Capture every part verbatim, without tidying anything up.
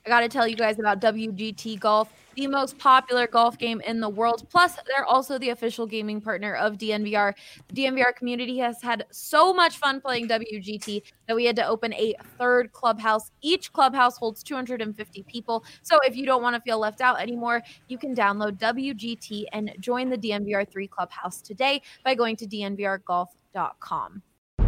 I got to tell you guys about W G T Golf, the most popular golf game in the world. Plus, they're also the official gaming partner of D N V R. The D N V R community has had so much fun playing W G T that we had to open a third clubhouse. Each clubhouse holds two hundred fifty people. So if you don't want to feel left out anymore, you can download W G T and join the D N V R three clubhouse today by going to D N V R golf dot com.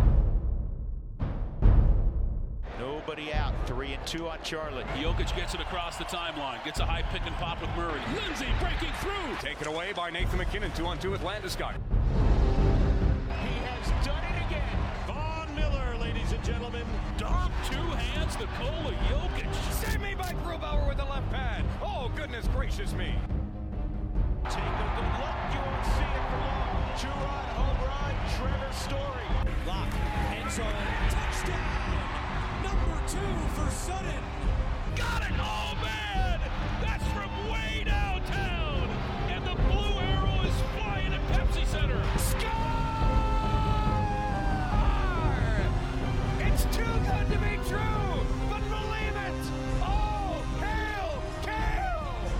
Nobody out. Three and two on Charlotte. Jokic gets it across the timeline. Gets a high pick and pop with Murray. Lindsay breaking through. Taken away by Nathan McKinnon. Two on two with Landeskog. He has done it again. Von Miller, ladies and gentlemen. Dom, two hands, Nikola Jokic. Save me by Grubauer with the left pad. Oh, goodness gracious me. Take a good look. You won't see it for long. Two-run home run. Trevor Story. Lock. End zone. Touchdown. Number two for Sutton. Got it! Oh, man! That's from way downtown! And the blue arrow is flying at Pepsi Center. Score! It's too good to be true, but believe it! Oh, hail, Kale!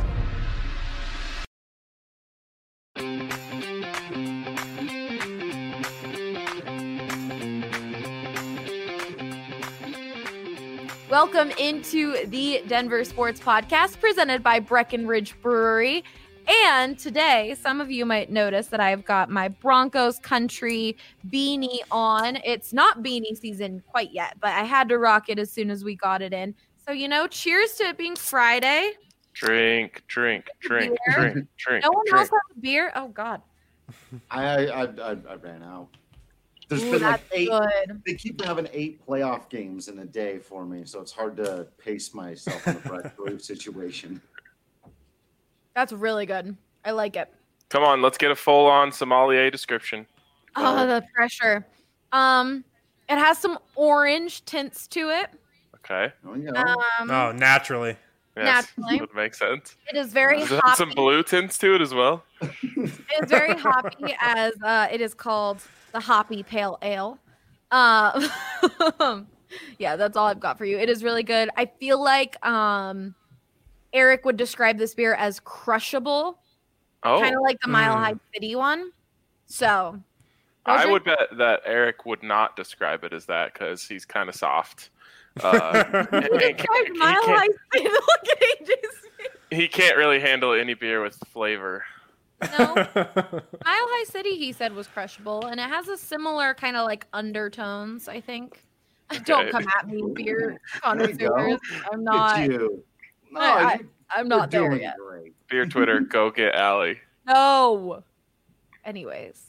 Welcome into the Denver Sports Podcast presented by Breckenridge Brewery. And today, some of you might notice that I've got my Broncos country beanie on. It's not beanie season quite yet, but I had to rock it as soon as we got it in. So, you know, cheers to it being Friday. Drink, drink, drink, Beer. drink, drink. No one drink. else has a beer? Oh, God. I I, I I ran out. There's Ooh, been like that's eight. good. They keep having eight playoff games in a day for me, so it's hard to pace myself in a Brett Brew situation. That's really good. I like it. Come on, let's get a full-on sommelier description. Oh, the pressure. Um, it has some orange tints to it. Okay. Oh, yeah. Um, Oh, naturally. Yes, Naturally. would make sense. It is very Does it have hoppy. some blue tints to it as well? It is very hoppy, as uh, it is called the Hoppy Pale Ale. Uh, yeah, that's all I've got for you. It is really good. I feel like um, Eric would describe this beer as crushable, Oh, kind of like the Mile High City one. So, those I are- would bet that Eric would not describe it as that because he's kind of soft. Uh, He and described can't- he Mile can't- High City. Look at A J's face. He can't really handle any beer with flavor. No, Mile High City, he said, was crushable, and it has a similar kind of like undertones, I think. Don't Okay. come at me, beer There you go. connoisseurs. I'm Look not. at you. No, I- I- you- I'm you're not there doing yet. great. Beer Twitter, go get Allie. No. Anyways,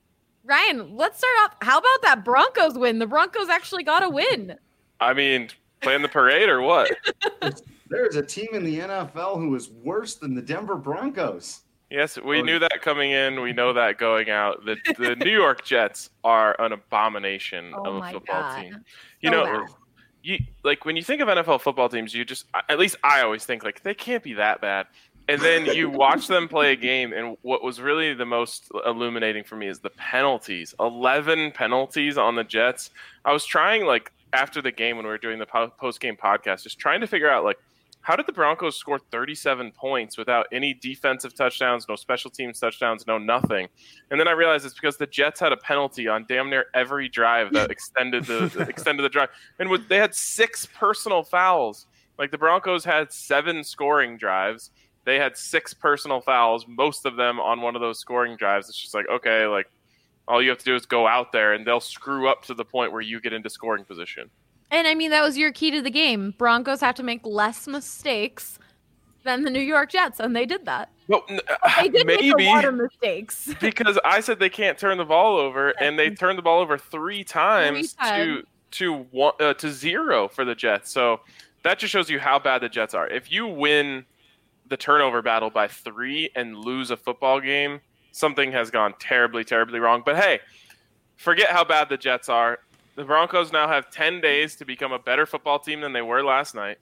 Ryan, let's start off. How about that Broncos win? The Broncos actually got a win. I mean, playing the parade or what? There's a team in the N F L who is worse than the Denver Broncos. Yes, we Oh, knew that coming in. We know that going out. The the New York Jets are an abomination Oh of a my football God. team. You So know, bad. you like when you think of N F L football teams, you just at least I always think like they can't be that bad. And then you watch them play a game, and what was really the most illuminating for me is the penalties. eleven penalties on the Jets. I was trying like after the game when we were doing the post game podcast, just trying to figure out like how did the Broncos score thirty-seven points without any defensive touchdowns, no special teams touchdowns, no nothing? And then I realized it's because the Jets had a penalty on damn near every drive that extended the extended the drive, and with, they had six personal fouls. Like the Broncos had seven scoring drives, they had six personal fouls, most of them on one of those scoring drives. It's just like okay, like all you have to do is go out there, and they'll screw up to the point where you get into scoring position. And I mean, that was your key to the game. Broncos have to make less mistakes than the New York Jets, and they did that. Well, n- They did maybe make a lot of mistakes. because I said they can't turn the ball over, and they turned the ball over three times, Three times. to to one uh, to zero for the Jets. So that just shows you how bad the Jets are. If you win the turnover battle by three and lose a football game, something has gone terribly, terribly wrong. But hey, forget how bad the Jets are. The Broncos now have ten days to become a better football team than they were last night.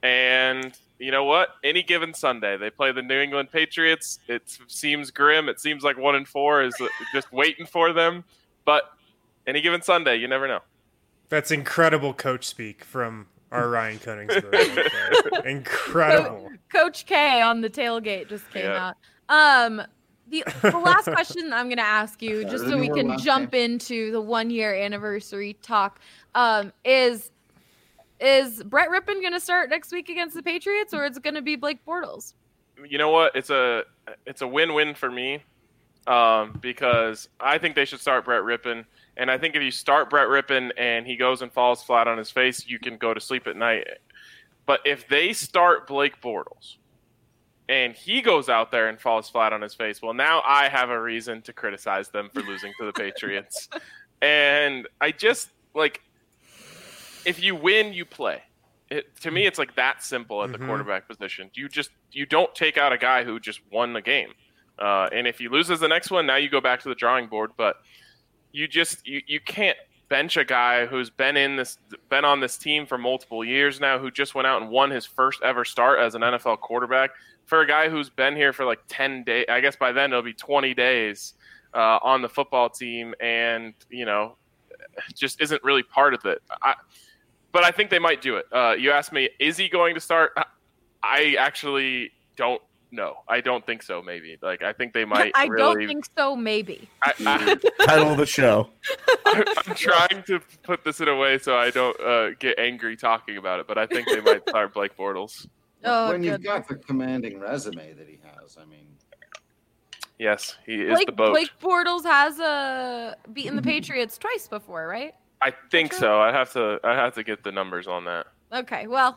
And you know what? Any given Sunday, they play the New England Patriots. It seems grim. It seems like one and four is just waiting for them. But any given Sunday, you never know. That's incredible coach speak from our Ryan Koenigsberg. Right there. Incredible. Coach K on the tailgate just came Yeah. out. Um, the, the last question I'm going to ask you, just so Any we more can last jump name? into the one year anniversary talk, um, is is Brett Rippon going to start next week against the Patriots, or is it going to be Blake Bortles? You know what? It's a it's a win-win for me um, because I think they should start Brett Rippon. And I think if you start Brett Rippon and he goes and falls flat on his face, you can go to sleep at night. But if they start Blake Bortles and he goes out there and falls flat on his face, well, now I have a reason to criticize them for losing to the Patriots. And I just, like, if you win, you play. It, to me, it's like that simple at the Mhm. quarterback position. You just you don't take out a guy who just won the game. Uh, and if he loses the next one, now you go back to the drawing board. But you just you, you can't bench a guy who's been in this been on this team for multiple years now, who just went out and won his first ever start as an N F L quarterback, for a guy who's been here for like ten days. I guess by then it'll be twenty days uh, on the football team, and you know, just isn't really part of it. I, but I think they might do it. Uh, you asked me, is he going to start? I actually don't know. I don't think so. Maybe like I think they might. I really, don't think so. Maybe. I, I, Title of the show. I'm trying to put this in a way so I don't uh, get angry talking about it, but I think they might start Blake Bortles. Oh, when you've goodness. got the commanding resume that he has, I mean, Yes, he is Blake, the boat. Blake Bortles has uh, beaten the Patriots twice before, right? I think so. I have to. I have to get the numbers on that. Okay, well,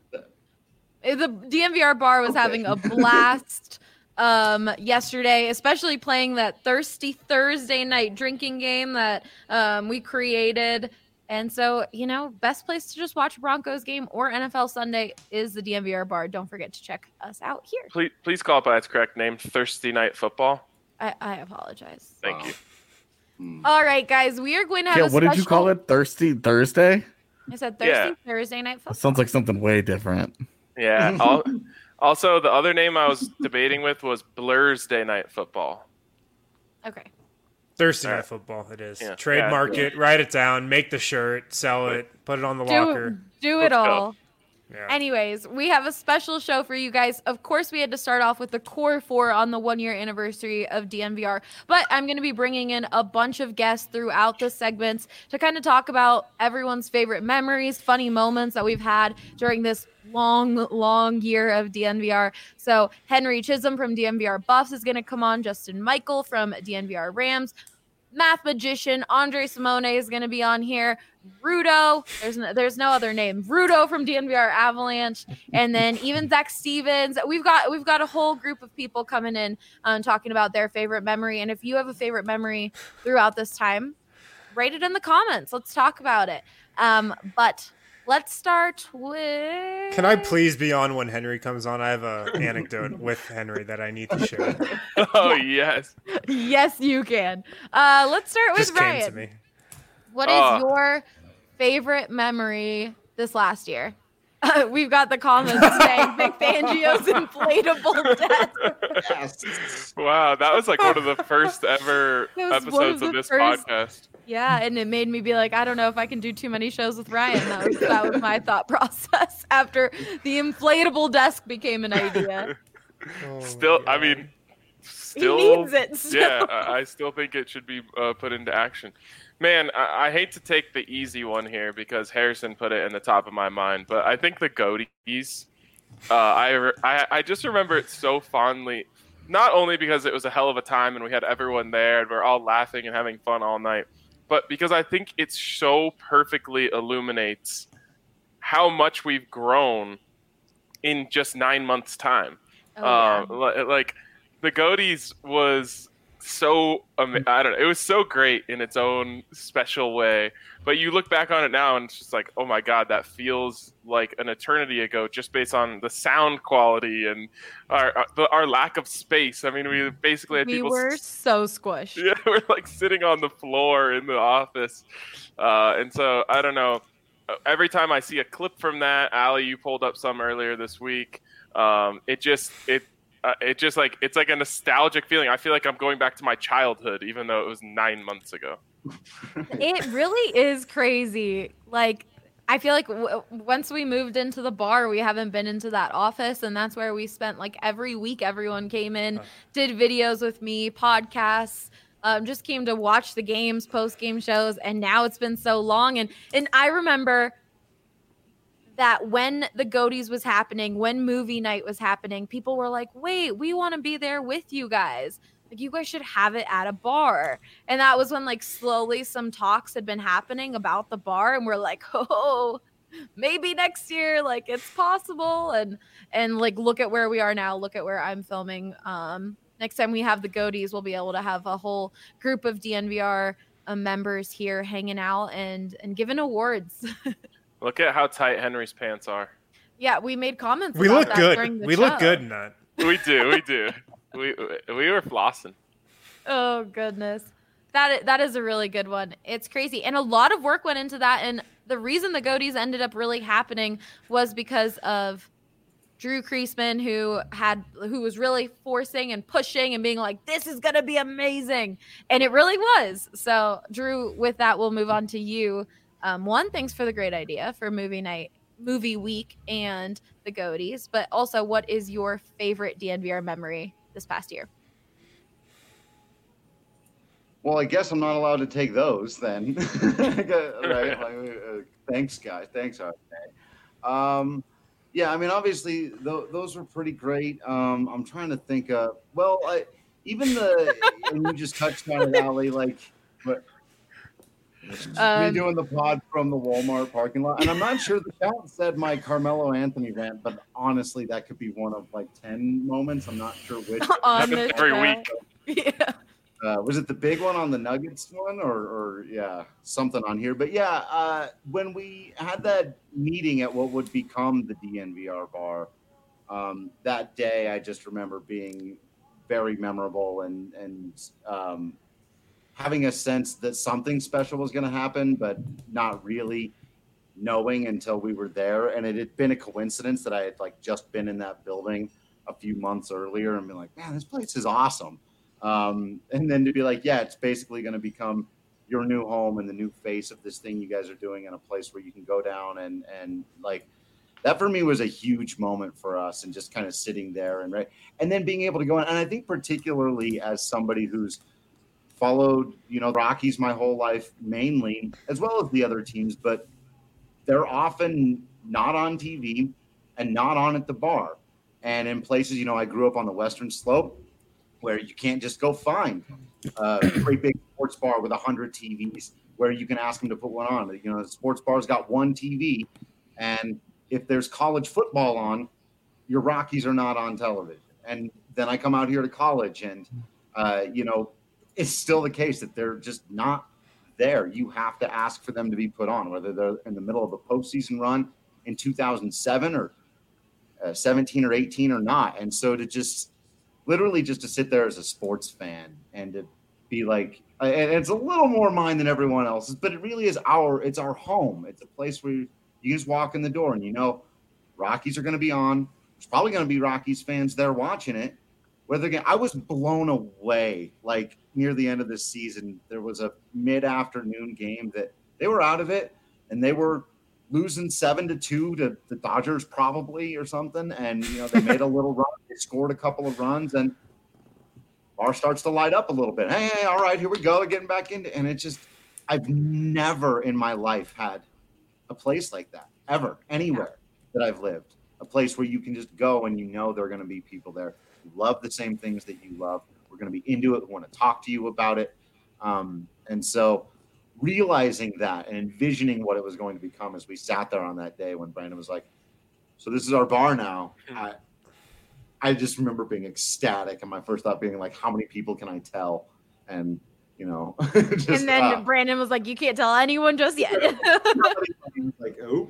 the D M V R bar was Okay. having a blast um, yesterday, especially playing that Thirsty Thursday night drinking game that um, we created. And so, you know, best place to just watch a Broncos game or N F L Sunday is the D M V R bar. Don't forget to check us out here. Please, please call it by its correct name: Thursday Night Football. I, I apologize. Thank Wow. you. hmm. All right, guys, we are going to have Yeah, a what did you call special- it? Thirsty Thursday? I said Thirsty Yeah. Thursday night football. That sounds like something way different. Yeah. I'll, also, the other name I was debating with was Blur's Day Night Football. Okay. Thursday All night right. football. It is. Yeah. Trademark Yeah. it. Write it down. Make the shirt. Sell it. Put it on the Do, locker. do Let's it go. all. Yeah. Anyways, we have a special show for you guys. Of course, we had to start off with the core four on the one year anniversary of D N V R, but I'm going to be bringing in a bunch of guests throughout the segments to kind of talk about everyone's favorite memories, funny moments that we've had during this long, long year of D N V R. So Henry Chisholm from D N V R Buffs is going to come on, Justin Michael from D N V R Rams, Math Magician Andre Simone is going to be on here. Rudo, there's no, there's no other name. Rudo from D N V R Avalanche, and then even Zach Stevens. We've got we've got a whole group of people coming in um, talking about their favorite memory. And if you have a favorite memory throughout this time, write it in the comments. Let's talk about it. Um, but let's start with. Can I please be on when Henry comes on? I have an anecdote with Henry that I need to share. Oh yes. Yes, you can. Uh, let's start with Just came Ryan. to me. What is Oh. your favorite memory this last year? Uh, we've got the comments saying Vic Fangio's inflatable desk. Yes. Wow, that was like one of the first ever That was one of episodes the of this first- podcast. Yeah, and it made me be like, I don't know if I can do too many shows with Ryan. That was, that was my thought process after the inflatable desk became an idea. Oh, Still, my I God. mean, He still, needs it. Still. yeah, I I still think it should be uh, put into action. Man, I, I hate to take the easy one here because Harrison put it in the top of my mind, but I think the Goaties. Uh, I, re- I I just remember it so fondly, not only because it was a hell of a time and we had everyone there and we're all laughing and having fun all night, but because I think it so perfectly illuminates how much we've grown in just nine months' time. Oh, yeah. Uh, li- like the Goaties was so ama- I don't know, it was so great in its own special way, but you look back on it now and it's just like, oh my god, that feels like an eternity ago, just based on the sound quality and our our, the, our lack of space. I mean, we basically had We people were s- so squished. yeah, we're like sitting on the floor in the office, uh, and so I don't know, every time I see a clip from that, Allie, you pulled up some earlier this week, um, it just it Uh, it just like it's like a nostalgic feeling. I feel like I'm going back to my childhood, even though it was nine months ago. It really is crazy. Like I feel like w- once we moved into the bar, we haven't been into that office, and that's where we spent like every week. Everyone came in, did videos with me, podcasts, um, just came to watch the games, post game shows, and now it's been so long. And and I remember that when the Goaties was happening, when movie night was happening, people were like, "Wait, we want to be there with you guys. Like, you guys should have it at a bar." And that was when like slowly some talks had been happening about the bar, and we're like, "Oh, maybe next year, like it's possible." And and like look at where we are now. Look at where I'm filming. Um, next time we have the Goaties, we'll be able to have a whole group of D N V R uh, members here hanging out and and giving awards. Look at how tight Henry's pants are. Yeah, we made comments. We about look that good. during the We show. look good in that. We do, we do. We we were flossing. Oh goodness, that that is a really good one. It's crazy, and a lot of work went into that. And the reason the Goaties ended up really happening was because of Drew Kreisman, who had who was really forcing and pushing and being like, "This is gonna be amazing," and it really was. So, Drew, with that, we'll move on to you. Um, one, thanks for the great idea for movie night, movie week, and the Goaties. But also, what is your favorite D N V R memory this past year? Well, I guess I'm not allowed to take those then. Right? Like, uh, thanks, guys. Thanks, R K. Um, yeah, I mean, obviously, th- those were pretty great. Um, I'm trying to think of, well, I, even the, and you just touched on it, Ali, like, but Um, me doing the pod from the Walmart parking lot. And I'm not sure the chat said my Carmelo Anthony rant, but honestly, that could be one of like ten moments. I'm not sure which. on Happens this every show. week. Yeah. Uh, was it the big one on the Nuggets one or, or yeah, something on here? But yeah, uh, when we had that meeting at what would become the D N V R bar, um, that day, I just remember being very memorable and, and um, having a sense that something special was going to happen, but not really knowing until we were there. And it had been a coincidence that I had like just been in that building a few months earlier and been like, man, this place is awesome. Um, and then to be like, yeah, it's basically going to become your new home and the new face of this thing you guys are doing in a place where you can go down and, and like that for me was a huge moment for us and just kind of sitting there and right. And then being able to go in. And I think particularly as somebody who's followed, you know, Rockies my whole life mainly, as well as the other teams, but they're often not on T V and not on at the bar. And in places, you know, I grew up on the Western Slope, where you can't just go find uh, a great big sports bar with one hundred T Vs where you can ask them to put one on. You know, the sports bar's got one T V, and if there's college football on, your Rockies are not on television. And then I come out here to college, and, uh, you know, it's still the case that they're just not there. You have to ask for them to be put on, whether they're in the middle of a postseason run in two thousand seven or uh, seventeen or eighteen or not. And so to just literally just to sit there as a sports fan and to be like, and it's a little more mine than everyone else's, but it really is our, it's our home. It's a place where you just walk in the door and you know, Rockies are going to be on. There's probably going to be Rockies fans there watching it. Whether again, I was blown away. Like near the end of this season, there was a mid-afternoon game that they were out of it and they were losing seven to two to the Dodgers probably or something. And, you know, they made a little run. They scored a couple of runs and bar starts to light up a little bit. Hey, hey, all right, here we go. They're getting back into, and it just, I've never in my life had a place like that ever, anywhere that I've lived, a place where you can just go and you know there are going to be people there who love the same things that you love. We're going to be into it. We want to talk to you about it. Um, and so realizing that and envisioning what it was going to become as we sat there on that day when Brandon was like, so this is our bar now. I, I just remember being ecstatic. And my first thought being like, how many people can I tell? And, you know, just, and then uh, Brandon was like, you can't tell anyone just yet. like, oh,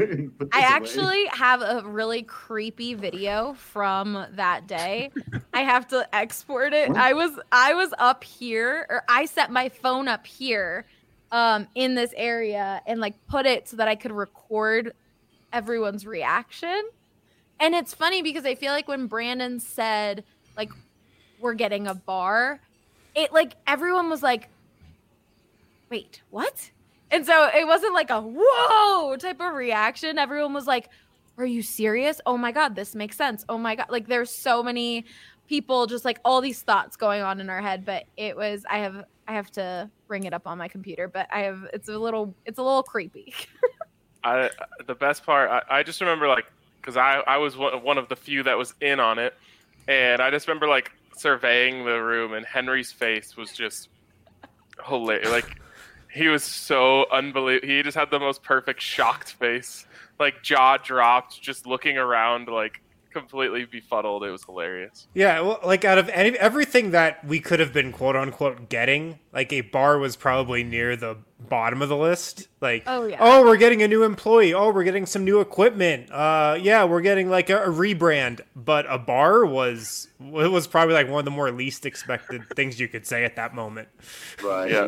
I actually have a really creepy video from that day. I have to export it. I was I was up here, or I set my phone up here um, in this area and like put it so that I could record everyone's reaction. And it's funny because I feel like when Brandon said like we're getting a bar, it like everyone was like, wait, what? And so it wasn't like a whoa type of reaction. Everyone was like, are you serious? Oh my God, this makes sense. Oh my God. Like there's so many people just like all these thoughts going on in our head. But it was, I have, I have to bring it up on my computer, but I have, it's a little, it's a little creepy. I, the best part, I, I just remember like, cause I, I was one of the few that was in on it. And I just remember like surveying the room and Henry's face was just hilarious. Like, he was so unbelievable. He just had the most perfect shocked face, like jaw dropped, just looking around, like completely befuddled. It was hilarious. Yeah, well, like out of any, everything that we could have been quote unquote getting, like a bar was probably near the bottom of the list. Like, oh yeah, oh we're getting a new employee. Oh, we're getting some new equipment. Uh, yeah, we're getting like a, a rebrand. But a bar was it was probably like one of the more least expected things you could say at that moment. Right. Yeah.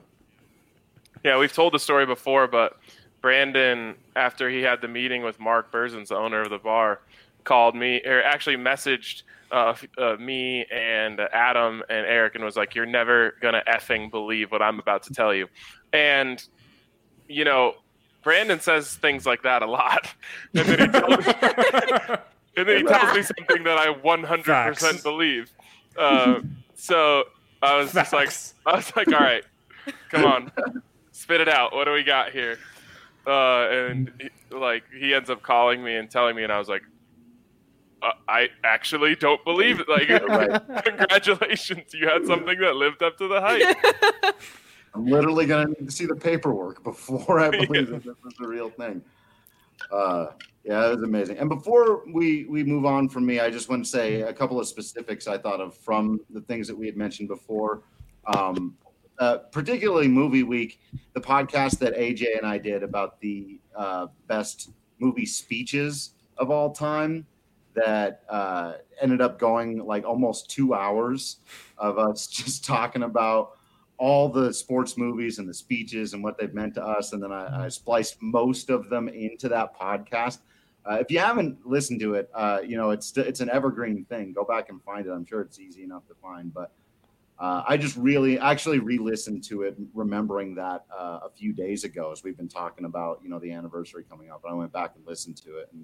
Yeah, we've told the story before, but Brandon, after he had the meeting with Mark Berzins, the owner of the bar, called me, or actually messaged uh, uh, me and Adam and Eric and was like, you're never going to effing believe what I'm about to tell you. And, you know, Brandon says things like that a lot. And then he tells me, and then he tells me something that I one hundred percent Facts. believe. Uh, so I was just like, I was like, all right, come on. Spit it out. What do we got here? Uh, and he, like he ends up calling me and telling me, and I was like, uh, I actually don't believe it. Like, Right. Congratulations, you had something that lived up to the hype. I'm literally going to need to see the paperwork before I believe that this is the real thing. Uh, yeah, it was amazing. And before we, we move on from me, I just want to say a couple of specifics I thought of from the things that we had mentioned before. Um, Uh, particularly Movie Week, the podcast that A J and I did about the uh, best movie speeches of all time that uh, ended up going like almost two hours of us just talking about all the sports movies and the speeches and what they've meant to us. And then I, I spliced most of them into that podcast. Uh, if you haven't listened to it, uh, you know, it's it's an evergreen thing. Go back and find it. I'm sure it's easy enough to find, but Uh, I just really actually re-listened to it, remembering that uh, a few days ago as we've been talking about, you know, the anniversary coming up. And I went back and listened to it. And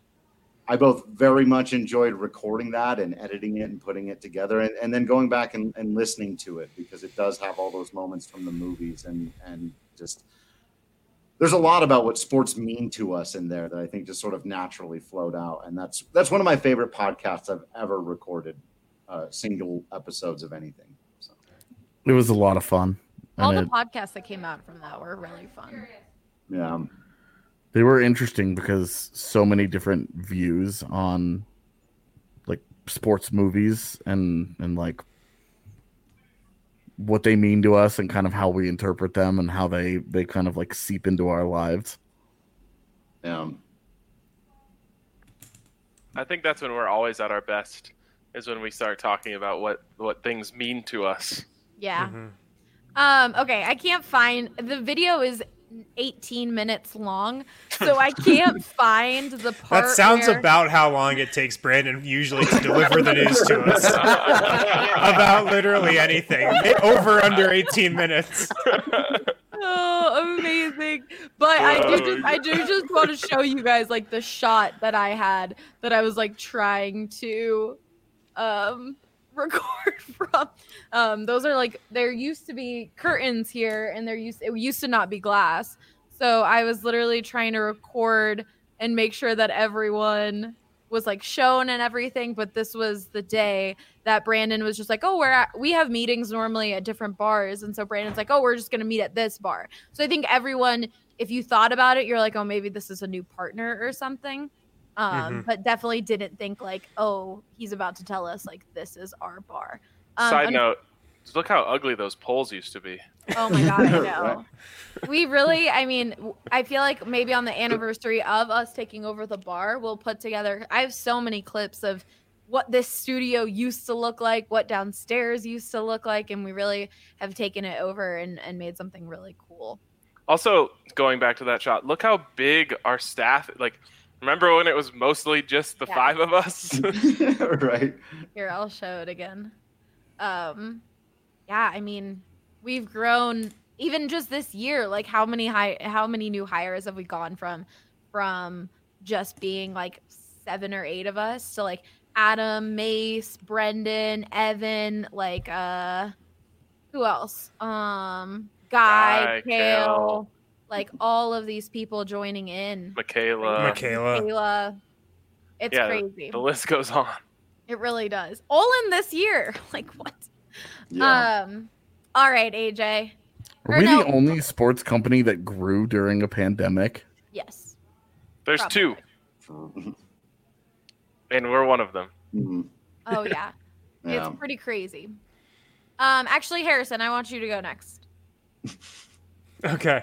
I both very much enjoyed recording that and editing it and putting it together and, and then going back and, and listening to it because it does have all those moments from the movies and, and just there's a lot about what sports mean to us in there that I think just sort of naturally flowed out. And that's that's one of my favorite podcasts I've ever recorded, uh, single episodes of anything. It was a lot of fun. All And the it, podcasts that came out from that were really fun. Yeah. they were interesting because so many different views on like sports movies and, and like what they mean to us and kind of how we interpret them and how they, they kind of like seep into our lives. Yeah. I think that's when we're always at our best, is when we start talking about what, what things mean to us. Yeah. Mm-hmm. Um, okay, I can't find the video is eighteen minutes long, so I can't find the part. That sounds where... about how long it takes Brandon usually to deliver the news to us. About literally anything. Over under eighteen minutes. Oh, amazing. But I do just I do just want to show you guys like the shot that I had that I was like trying to um record from. Um those are like there used to be curtains here and there used it used to not be glass. So I was literally trying to record and make sure that everyone was like shown and everything, but this was the day that Brandon was just like, oh, we're at, we have meetings normally at different bars, and so Brandon's like, oh, we're just gonna meet at this bar. So I think everyone, if you thought about it, you're like, oh, maybe this is a new partner or something, um mm-hmm. but definitely didn't think like, oh, he's about to tell us like this is our bar. Um, Side note, look how ugly those poles used to be. Oh my god, I know. We really, I mean, I feel like maybe on the anniversary of us taking over the bar, we'll put together, I have so many clips of what this studio used to look like, what downstairs used to look like, and we really have taken it over and, and made something really cool. Also, going back to that shot, look how big our staff, like, remember when it was mostly just the yeah. five of us? Right. Here, I'll show it again. Um, yeah, I mean, we've grown even just this year, like how many high, how many new hires have we gone from, from just being like seven or eight of us to like Adam, Mace, Brendan, Evan, like uh, who else? Um, Guy, Guy, Kale, Kale. like all of these people joining in. Michaela. Michaela. Michaela. It's Yeah, crazy. The list goes on. It really does. All in this year. Like what? Yeah. Um. All right, A J. Are Or we no. the only sports company that grew during a pandemic? Yes. There's Probably. two, and we're one of them. Mhm. Oh yeah. Yeah. It's pretty crazy. Um. Actually, Harrison, I want you to go next. Okay.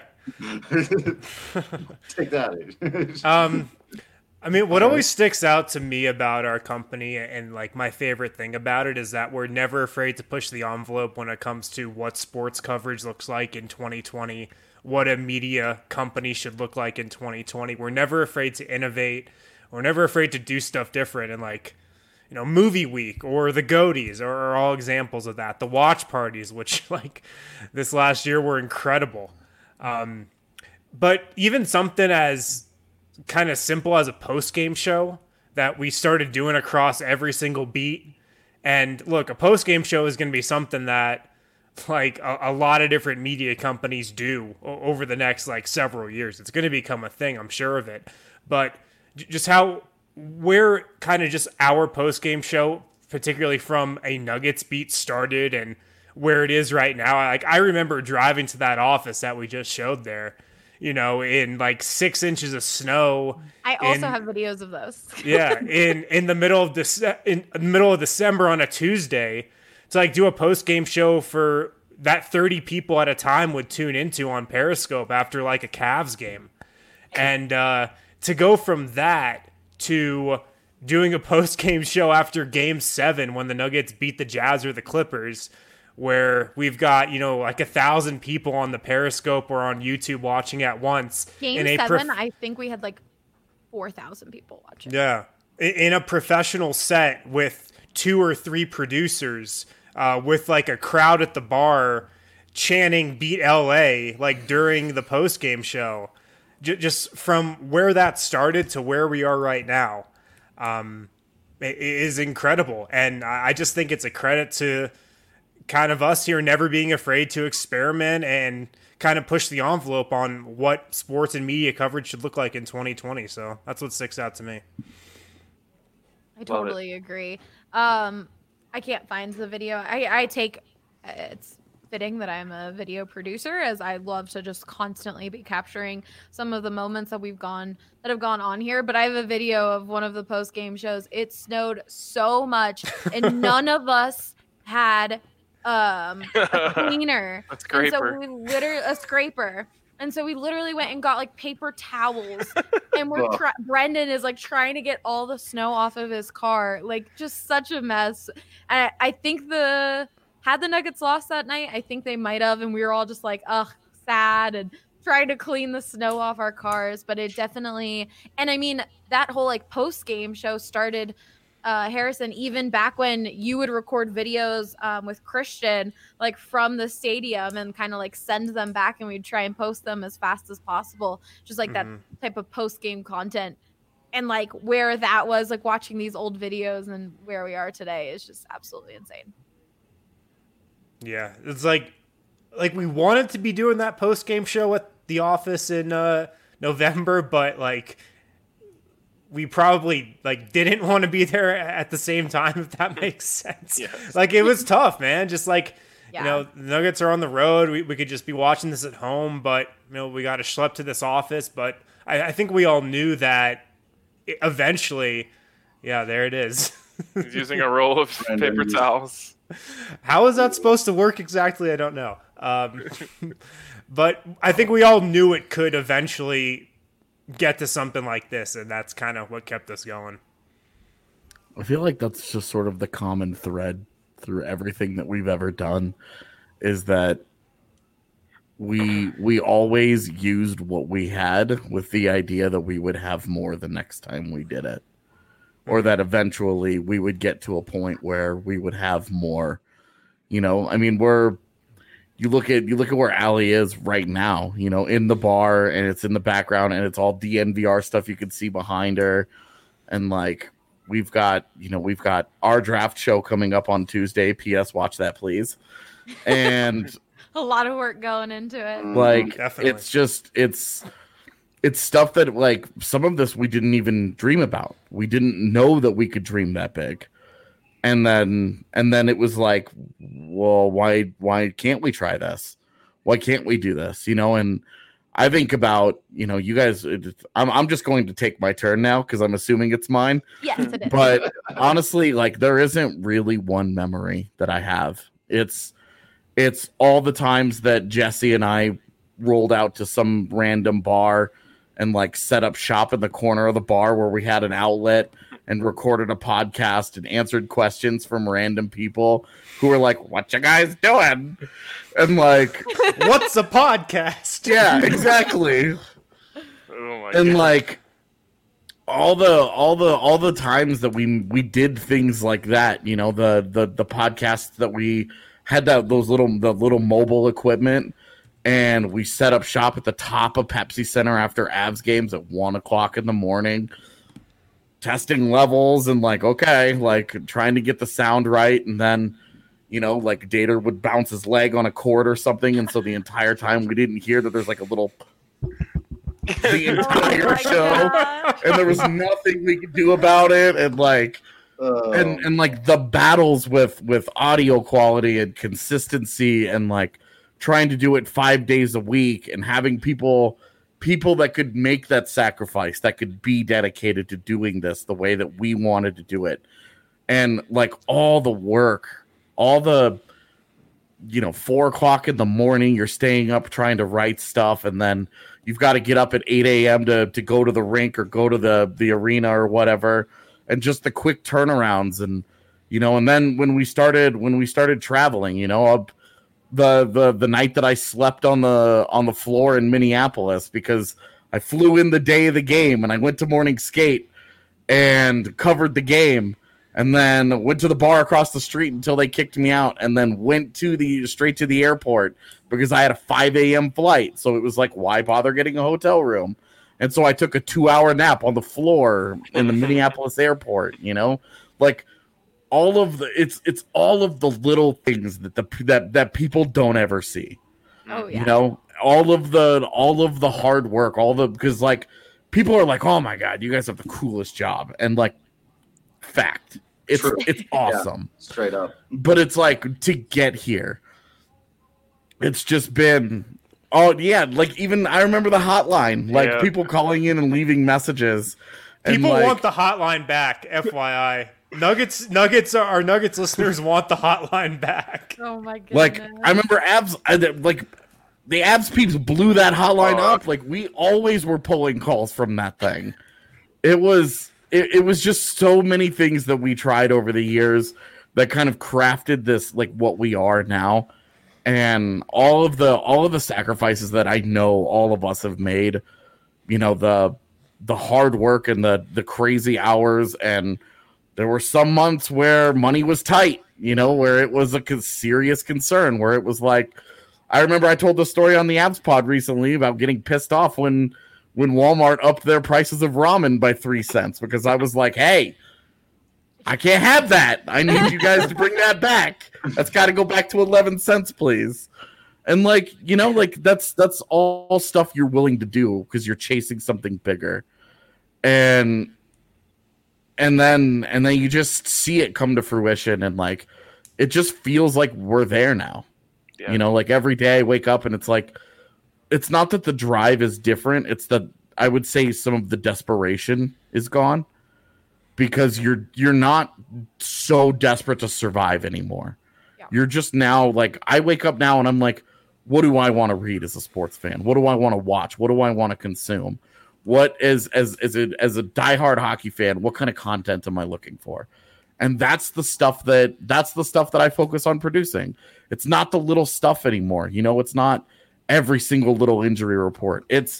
Take that. Um, I mean, what always sticks out to me about our company and like my favorite thing about it is that we're never afraid to push the envelope when it comes to what sports coverage looks like in twenty twenty, what a media company should look like in twenty twenty. We're never afraid to innovate. We're never afraid to do stuff different. And like, you know, Movie Week or the Goaties are, are all examples of that. The watch parties, which like this last year were incredible. Um, but even something as kind of simple as a post-game show that we started doing across every single beat. And look, a post-game show is going to be something that like a, a lot of different media companies do o- over the next like several years. It's going to become a thing, I'm sure of it. But j- just how where kind of just our post-game show, particularly from a Nuggets beat, started and where it is right now. Like I remember driving to that office that we just showed there, you know, in like six inches of snow. I also in- have videos of those. yeah, in in the middle of Dece- in the middle of December on a Tuesday to like do a post game show for that thirty people at a time would tune into on Periscope after like a Cavs game, and uh, to go from that to doing a post game show after Game Seven when the Nuggets beat the Jazz or the Clippers, where we've got, you know, like a thousand people on the Periscope or on YouTube watching at once. Game in a seven, prof- I think we had like four thousand people watching. Yeah. In- In a professional set with two or three producers, uh, with like a crowd at the bar chanting beat L A, like during the post game show. J- just from where that started to where we are right now, um, it, it is incredible. And I, I just think it's a credit to kind of us here never being afraid to experiment and kind of push the envelope on what sports and media coverage should look like in twenty twenty. So that's what sticks out to me. I totally agree. Um, I can't find the video. I, I take, it's fitting that I'm a video producer as I love to just constantly be capturing some of the moments that we've gone, that have gone on here. But I have a video of one of the post-game shows. It snowed so much and none of us had um a cleaner. A And scraper. so we literally a scraper. And so we literally went and got like paper towels, and we're Ugh. try- Brendan is like trying to get all the snow off of his car, like just such a mess. And I, I think the had the Nuggets lost that night, I think they might have, and we were all just like, ugh, sad and trying to clean the snow off our cars. But it definitely, and I mean that whole like post game show started. Uh, Harrison, even back when you would record videos um, with Christian, like from the stadium and kind of like send them back and we'd try and post them as fast as possible. Just like Mhm. that type of post game content. And like where that was, like watching these old videos and where we are today is just absolutely insane. Yeah, it's like like we wanted to be doing that post game show at the office in uh, November, but like we probably like didn't want to be there at the same time, if that makes sense. Yes. Like it was tough, man. Just like Yeah. you know, the Nuggets are on the road. We we could just be watching this at home, but you know, we got to schlep to this office. But I, I think we all knew that eventually, yeah, there it is. He's using a roll of Brendan paper used- towels. How is that supposed to work exactly? I don't know. Um, but I think we all knew it could eventually get to something like this, and that's kind of what kept us going. I feel like that's just sort of the common thread through everything that we've ever done, is that we we always used what we had with the idea that we would have more the next time we did it, or that eventually we would get to a point where we would have more. You know, I mean, we're you look at you look at where Allie is right now, you know, in the bar, and it's in the background, and it's all D N V R stuff you can see behind her, and like we've got, you know, we've got our draft show coming up on Tuesday. P S Watch that, please. And a lot of work going into it. like Definitely. it's just it's it's stuff that like some of this we didn't even dream about. We didn't know that we could dream that big. And then and then it was like, well, why why can't we try this? Why can't we do this? You know, and I think about, you know, you guys, I'm I'm just going to take my turn now because I'm assuming it's mine. Yes, it is. But honestly, like there isn't really one memory that I have. It's it's all the times that Jesse and I rolled out to some random bar and like set up shop in the corner of the bar where we had an outlet and recorded a podcast and answered questions from random people who were like, what you guys doing? And like, What's a podcast? yeah, exactly. Oh my And God. like all the all the all the times that we we did things like that, you know, the the the podcasts that we had that those little the little mobile equipment, and we set up shop at the top of Pepsi Center after Avs games at one o'clock in the morning, testing levels and like, okay, like trying to get the sound right. And then, you know, like Dater would bounce his leg on a cord or something. And so the entire time we didn't hear that there's like a little the entire Oh my show. God. And there was nothing we could do about it. And like, Oh, and and like the battles with with audio quality and consistency and like trying to do it five days a week and having people people that could make that sacrifice, that could be dedicated to doing this the way that we wanted to do it. And like all the work, all the, you know, four o'clock in the morning, you're staying up trying to write stuff, and then you've got to get up at eight a.m. to to go to the rink or go to the the arena or whatever. And just the quick turnarounds, and you know, and then when we started when we started traveling, you know, uh, the the the night that I slept on the on the floor in Minneapolis because I flew in the day of the game and I went to morning skate and covered the game, and then went to the bar across the street until they kicked me out, and then went to the straight to the airport because I had a five a.m. flight. So it was like, why bother getting a hotel room? And so I took a two-hour nap on the floor in the Minneapolis airport, you know? Like all of the it's it's all of the little things that the that that people don't ever see. Oh yeah. You know, all of the all of the hard work, all the because like people are like, "Oh my god, you guys have the coolest job." And like fact, it's True. it's awesome. straight up. But it's like to get here, it's just been oh yeah, like even I remember the hotline, like Yeah. people calling in and leaving messages. And People like, want the hotline back, F Y I. Nuggets, Nuggets, our Nuggets listeners want the hotline back. Oh my goodness. like I remember abs I, like the abs peeps blew that hotline Oh. up. Like we always were pulling calls from that thing. It was it, it was just so many things that we tried over the years that kind of crafted this like what we are now. And all of the all of the sacrifices that I know all of us have made, you know, the the hard work and the the crazy hours, and there were some months where money was tight, you know, where it was a con- serious concern, where it was like, I remember I told the story on the Abs Pod recently about getting pissed off when when Walmart upped their prices of ramen by three cents because I was like, hey, I can't have that. I need you guys to bring that back. That's got to go back to eleven cents, please. And like, you know, like that's that's all stuff you're willing to do because you're chasing something bigger. And and then and then you just see it come to fruition, and like it just feels like we're there now. Yeah. You know, like every day I wake up and it's like it's not that the drive is different, it's that I would say some of the desperation is gone. Because you're you're not so desperate to survive anymore. Yeah. You're just now like I wake up now and I'm like, what do I want to read as a sports fan? What do I want to watch? What do I want to consume? What is as as a as a diehard hockey fan, what kind of content am I looking for? And that's the stuff that that's the stuff that I focus on producing. It's not the little stuff anymore. You know, it's not every single little injury report. It's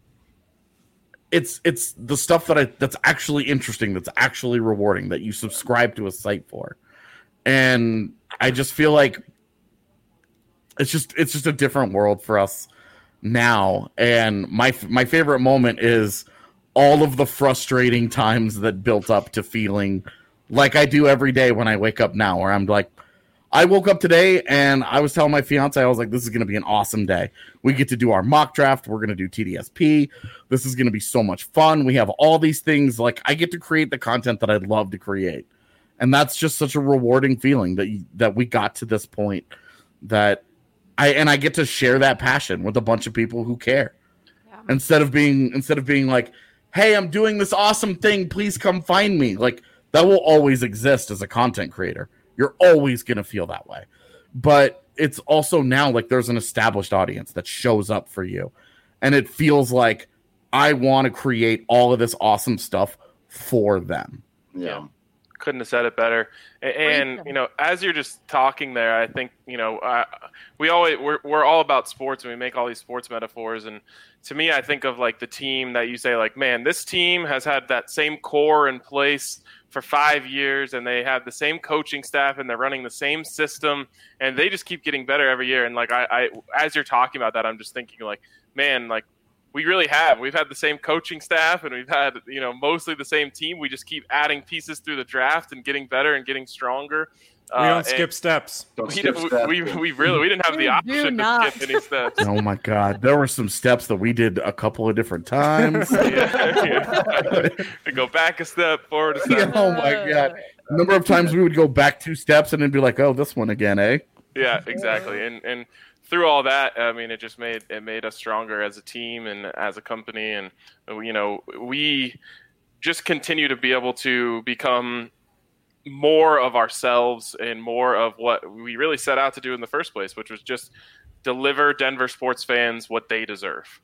It's it's the stuff that I that's actually interesting, that's actually rewarding, that you subscribe to a site for. And I just feel like it's just it's just a different world for us now. And my my favorite moment is all of the frustrating times that built up to feeling like I do every day when I wake up now, where I'm like, I woke up today and I was telling my fiance, I was like, this is going to be an awesome day. We get to do our mock draft. We're going to do T D S P. This is going to be so much fun. We have all these things. Like, I get to create the content that I'd love to create. And that's just such a rewarding feeling that you, that we got to this point, that I, and I get to share that passion with a bunch of people who care. Yeah. Instead of being, instead of being like, hey, I'm doing this awesome thing, please come find me. Like, that will always exist as a content creator. You're always going to feel that way. But it's also now like there's an established audience that shows up for you. And it feels like I want to create all of this awesome stuff for them. Yeah. yeah. Couldn't have said it better. And, you know, as you're just talking there, I think, you know, uh, we always, we're, we're all about sports and we make all these sports metaphors. And to me, I think of like the team that you say like, man, this team has had that same core in place for five years and they have the same coaching staff and they're running the same system and they just keep getting better every year. And like, I, I as you're talking about that, I'm just thinking like, man, like we really have, we've had the same coaching staff and we've had, you know, mostly the same team. We just keep adding pieces through the draft and getting better and getting stronger. We don't uh, skip steps. Don't we, skip we, steps. we, we really, we didn't have the option to skip any steps. Oh my God. There were some steps that we did a couple of different times. yeah, yeah. We go back a step, forward a step. Yeah, oh my God. A number of times we would go back two steps and then be like, oh, this one again, eh? Yeah, exactly. And and through all that, I mean, it just made it made us stronger as a team and as a company. And, you know, we just continue to be able to become more of ourselves and more of what we really set out to do in the first place, which was just deliver Denver sports fans what they deserve.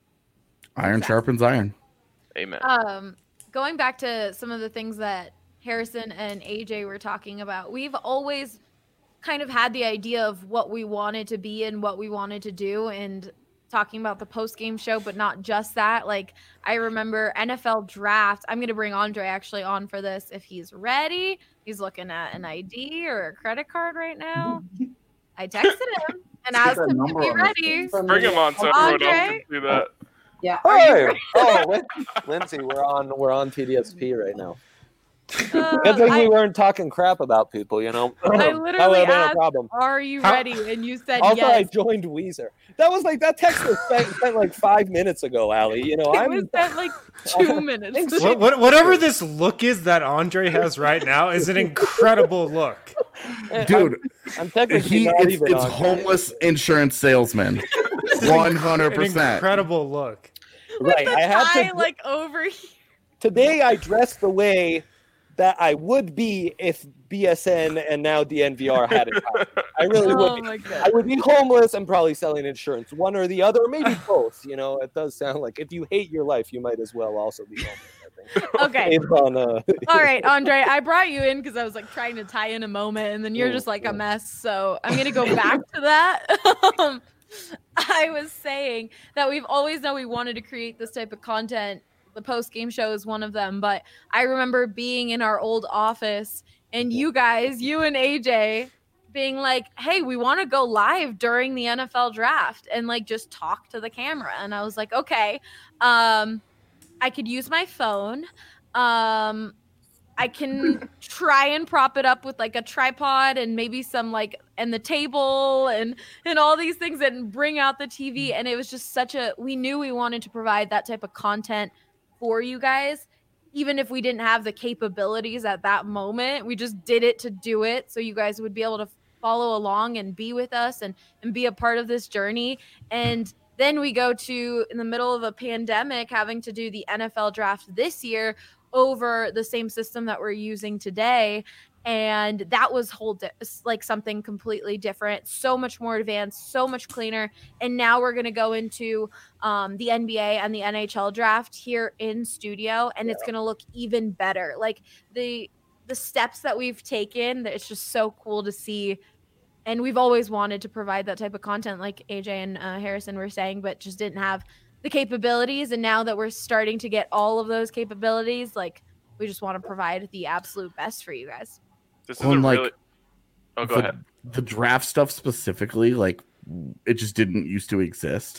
Iron exactly. sharpens iron. Amen. Um, going back to some of the things that Harrison and A J were talking about, we've always kind of had the idea of what we wanted to be and what we wanted to do, and talking about the post-game show, but not just that. Like, I remember N F L draft. I'm going to bring Andre actually on for this if he's ready. He's looking at an I D or a credit card right now. I texted him and asked him to be ready. Bring him on so everyone else can do that. Yeah. Hey. Oh, Lin- Lindsay, we're on we're on T D S P right now. Uh, Good thing I, we weren't talking crap about people, you know. I literally asked, problem. "Are you How? ready?" And you said also, yes. I joined Weezer. That was like that text was sent, sent like five minutes ago, Allie. You know, it I'm was sent like two minutes. What, what, whatever this look is that Andre has right now is an incredible look, dude. I'm, I'm technically he, not it's, even it's on homeless insurance salesman, one hundred an percent. incredible look. right. The I have tie, to like over here. today. I dressed the way that I would be if B S N and now D N V R had it. I really Oh would. my Be. God. I would be homeless and probably selling insurance, one or the other, or maybe both. You know, it does sound like if you hate your life, you might as well also be homeless. I think. Okay. Based on, uh, All right, Andre, I brought you in because I was like trying to tie in a moment, and then you're Ooh, just like ooh. a mess. So I'm gonna go back to that. um, I was saying that we've always known we wanted to create this type of content. The post game show is one of them, but I remember being in our old office and you guys, you and A J, being like, "Hey, we want to go live during the N F L draft and like just talk to the camera." And I was like, "Okay, um, I could use my phone. Um, I can try and prop it up with like a tripod and maybe some like and the table and and all these things and bring out the T V." And it was just such a, we knew we wanted to provide that type of content for you guys, even if we didn't have the capabilities at that moment. We just did it to do it so you guys would be able to follow along and be with us and and be a part of this journey. And then we go to, in the middle of a pandemic, having to do the N F L draft this year over the same system that we're using today. And that was whole di- like something completely different, so much more advanced, so much cleaner. And now we're going to go into um, the N B A and the N H L draft here in studio, and yeah. It's going to look even better. Like the the steps that we've taken, it's just so cool to see. And we've always wanted to provide that type of content, like A J and uh, Harrison were saying, but just didn't have the capabilities. And now that we're starting to get all of those capabilities, like we just want to provide the absolute best for you guys. This is Well, a like, really. Oh, go the, ahead. The draft stuff specifically, like it just didn't used to exist.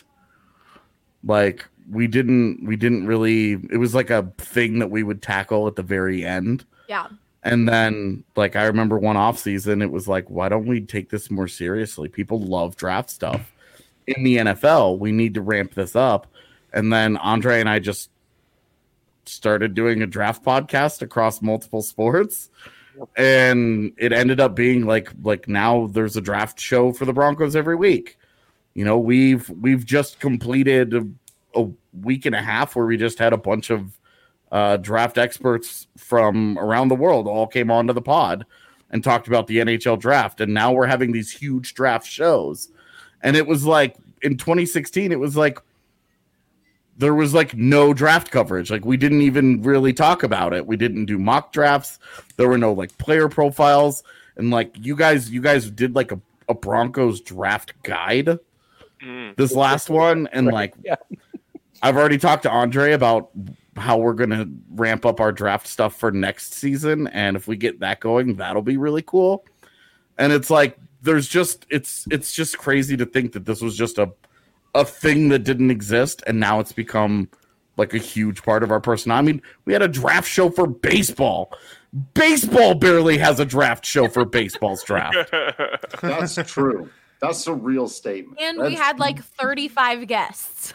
Like we didn't we didn't really it was like a thing that we would tackle at the very end. Yeah. And then like I remember one off season, it was like, why don't we take this more seriously? People love draft stuff. In the N F L, we need to ramp this up. And then Andre and I just started doing a draft podcast across multiple sports. And it ended up being like like now there's a draft show for the Broncos every week. You know, we've we've just completed a, a week and a half where we just had a bunch of uh, draft experts from around the world all came onto the pod and talked about the N H L draft. And now we're having these huge draft shows. And it was like in twenty sixteen, it was like there was like no draft coverage. Like we didn't even really talk about it. We didn't do mock drafts. There were no like player profiles. And like you guys, you guys did like a, a Broncos draft guide mm. this last one. And like, yeah. I've already talked to Andre about how we're going to ramp up our draft stuff for next season. And if we get that going, that'll be really cool. And it's like, there's just, it's, it's just crazy to think that this was just a, a thing that didn't exist, and now it's become like a huge part of our person. I mean, we had a draft show for baseball. Baseball barely has a draft show for baseball's draft. That's true. That's a real statement. And That's, we had like thirty-five guests.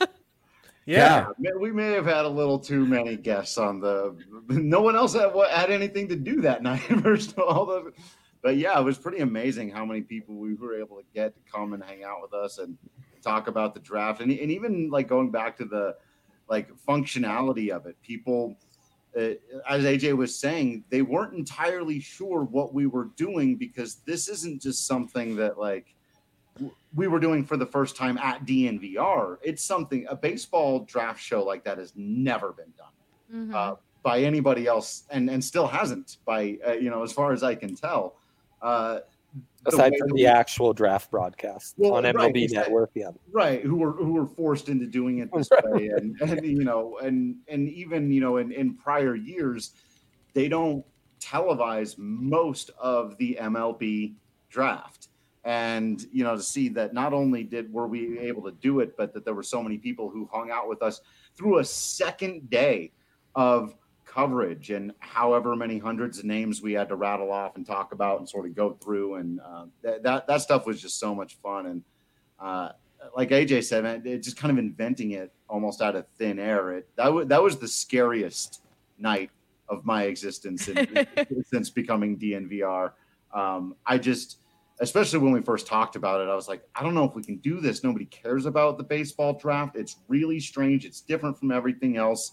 yeah. yeah, we may have had a little too many guests on the. No one else had, had anything to do that night. First of all, the, but yeah, it was pretty amazing how many people we were able to get to come and hang out with us and talk about the draft, and, and even like going back to the like functionality of it. People, uh, as A J was saying, they weren't entirely sure what we were doing, because this isn't just something that like w- we were doing for the first time at D N V R. It's something, a baseball draft show like that has never been done mm-hmm. uh, by anybody else, and and still hasn't by uh, you know, as far as I can tell. Uh, Aside from the actual draft broadcast well, on M L B right, Network, yeah, right. Who were who were forced into doing it this right. way, and, and you know, and and even you know, in, in prior years, they don't televise most of the M L B draft, and you know, to see that not only did were we able to do it, but that there were so many people who hung out with us through a second day of coverage, and however many hundreds of names we had to rattle off and talk about and sort of go through, and uh, that, that that stuff was just so much fun. And uh, like A J said, man, it just kind of inventing it almost out of thin air. It that was that was the scariest night of my existence in, in, since becoming D N V R. Um, I just, especially when we first talked about it, I was like, I don't know if we can do this. Nobody cares about the baseball draft. It's really strange. It's different from everything else,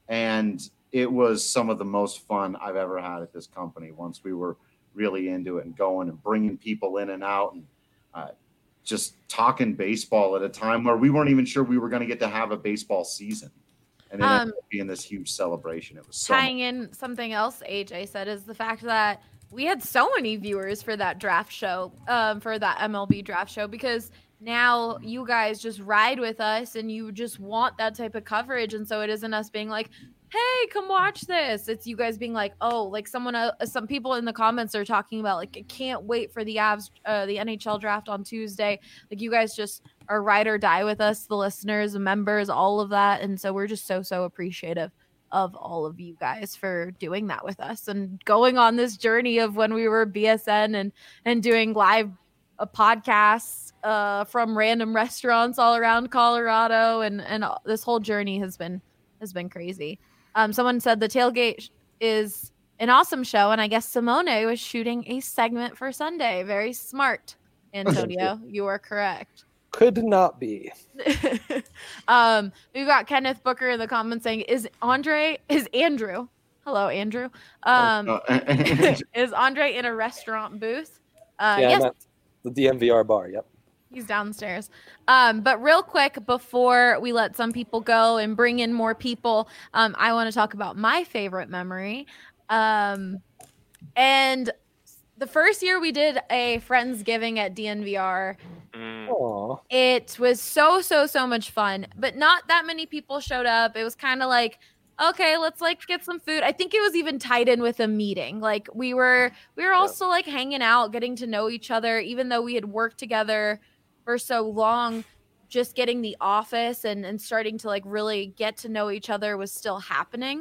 and it was some of the most fun I've ever had at this company once we were really into it and going and bringing people in and out and uh, just talking baseball at a time where we weren't even sure we were going to get to have a baseball season. And then um, being this huge celebration. It was so tying much. in something else A J said is the fact that we had so many viewers for that draft show, um, for that M L B draft show, because now you guys just ride with us and you just want that type of coverage. And so it isn't us being like, hey, come watch this. It's you guys being like, oh, like someone, uh, some people in the comments are talking about like, I can't wait for the Avs, uh, the N H L draft on Tuesday. Like you guys just are ride or die with us, the listeners, the members, all of that. And so we're just so, so appreciative of all of you guys for doing that with us and going on this journey of when we were B S N and, and doing live uh, podcasts uh, from random restaurants all around Colorado. And, and this whole journey has been, has been crazy. Um, someone said the tailgate is an awesome show, and I guess Simone was shooting a segment for Sunday. Very smart, Antonio. You are correct. Could not be. um, we've got Kenneth Booker in the comments saying, "Is Andre? Is Andrew? Hello, Andrew. Um, is Andre in a restaurant booth? Uh, yeah, yes, the D N V R bar. Yep." He's downstairs. Um, but real quick, before we let some people go and bring in more people, um, I want to talk about my favorite memory. Um, and the first year we did a Friendsgiving at D N V R, Aww. It was so, so, so much fun, but not that many people showed up. It was kind of like, okay, let's like get some food. I think it was even tied in with a meeting. Like we were, we were also like hanging out, getting to know each other, even though we had worked together for so long, just getting the office and, and starting to like really get to know each other was still happening.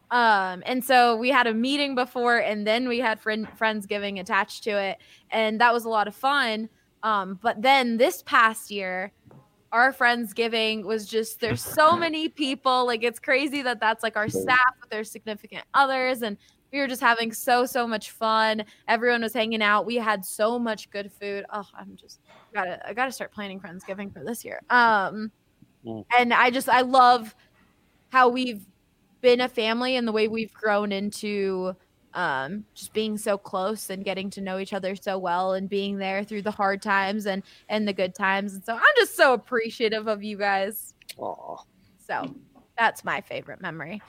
Um, and so we had a meeting before, and then we had friend Friendsgiving attached to it, and that was a lot of fun. Um, but then this past year, our Friendsgiving was just, there's so many people, like it's crazy that that's like our staff with their significant others, and we were just having so, so much fun. Everyone was hanging out. We had so much good food. Oh, I'm just gotta, I gotta start planning Friendsgiving for this year. Um, and I just, I love how we've been a family and the way we've grown into um, just being so close and getting to know each other so well and being there through the hard times and, and the good times. And so I'm just so appreciative of you guys. Aww. So that's my favorite memory.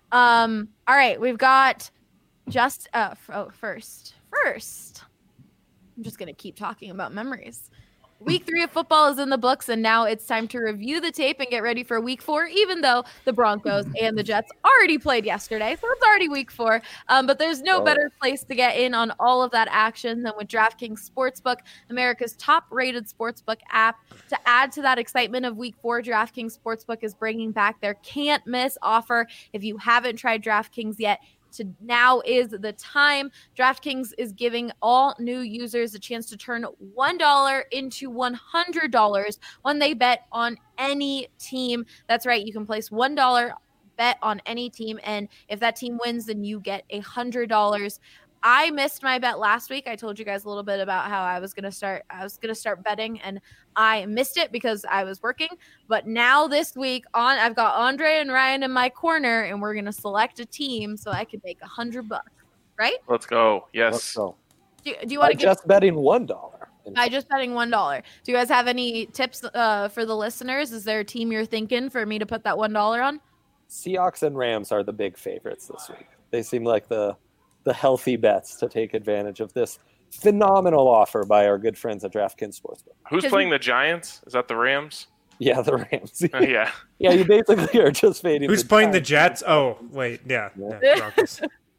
Um, all right, we've got just uh, f- oh, first, first, I'm just going to keep talking about memories. Week three of football is in the books, and now it's time to review the tape and get ready for week four, even though the Broncos and the Jets already played yesterday. So it's already week four. Um, but there's no better place to get in on all of that action than with DraftKings Sportsbook, America's top-rated sportsbook app. To add to that excitement of week four, DraftKings Sportsbook is bringing back their can't-miss offer. If you haven't tried DraftKings yet, To now is the time. DraftKings is giving all new users a chance to turn one dollar into one hundred dollars when they bet on any team. That's right. You can place one dollar bet on any team, and if that team wins, then you get one hundred dollars. I missed my bet last week. I told you guys a little bit about how I was going to start I was going to start betting, and I missed it because I was working. But now this week on I've got Andre and Ryan in my corner, and we're going to select a team so I can make a hundred bucks. Right? Let's go. Yes. Let's go. Do, do you want to just betting one dollar? By just betting one dollar. Do you guys have any tips uh, for the listeners? Is there a team you're thinking for me to put that one dollar on? Seahawks and Rams are the big favorites this week. They seem like the the healthy bets to take advantage of this phenomenal offer by our good friends at DraftKings Sportsbook. Who's playing the Giants? Is that the Rams? Yeah, the Rams. Uh, yeah. Yeah, you basically are just fading. Who's the playing Giants. the Jets? Oh, wait, yeah. Yeah. yeah Broncos.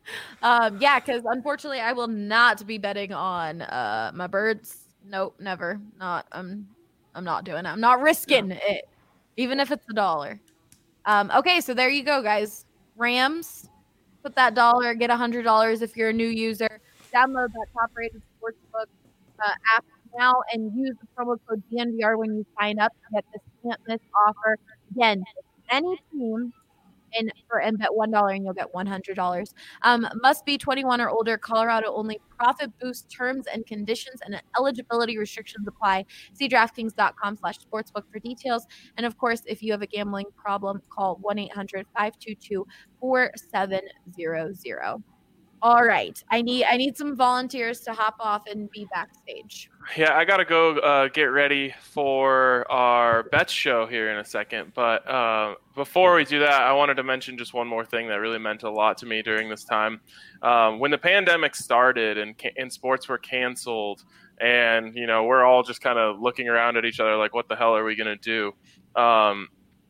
um, yeah, because unfortunately I will not be betting on uh, my birds. Nope, never. Not. I'm. I'm not doing it. I'm not risking no. it, even if it's a dollar. Um, okay, so there you go, guys. Rams. Put that dollar, get one hundred dollars if you're a new user. Download that top-rated sportsbook uh, app now and use the promo code D N V R when you sign up to get this can't-miss offer. Again, any team and for and bet one dollar and you'll get one hundred dollars. Um, must be twenty-one or older. Colorado only. Profit boost terms and conditions and eligibility restrictions apply. See DraftKings.com slash sportsbook for details. And of course, if you have a gambling problem, call one eight hundred five two two four seven zero zero. All right. I need I need some volunteers to hop off and be backstage. Yeah, I got to go uh, get ready for our bets show here in a second. But uh, before we do that, I wanted to mention just one more thing that really meant a lot to me during this time. Um, when the pandemic started and, ca- and sports were canceled and, you know, we're all just kind of looking around at each other like, what the hell are we going to do? Um,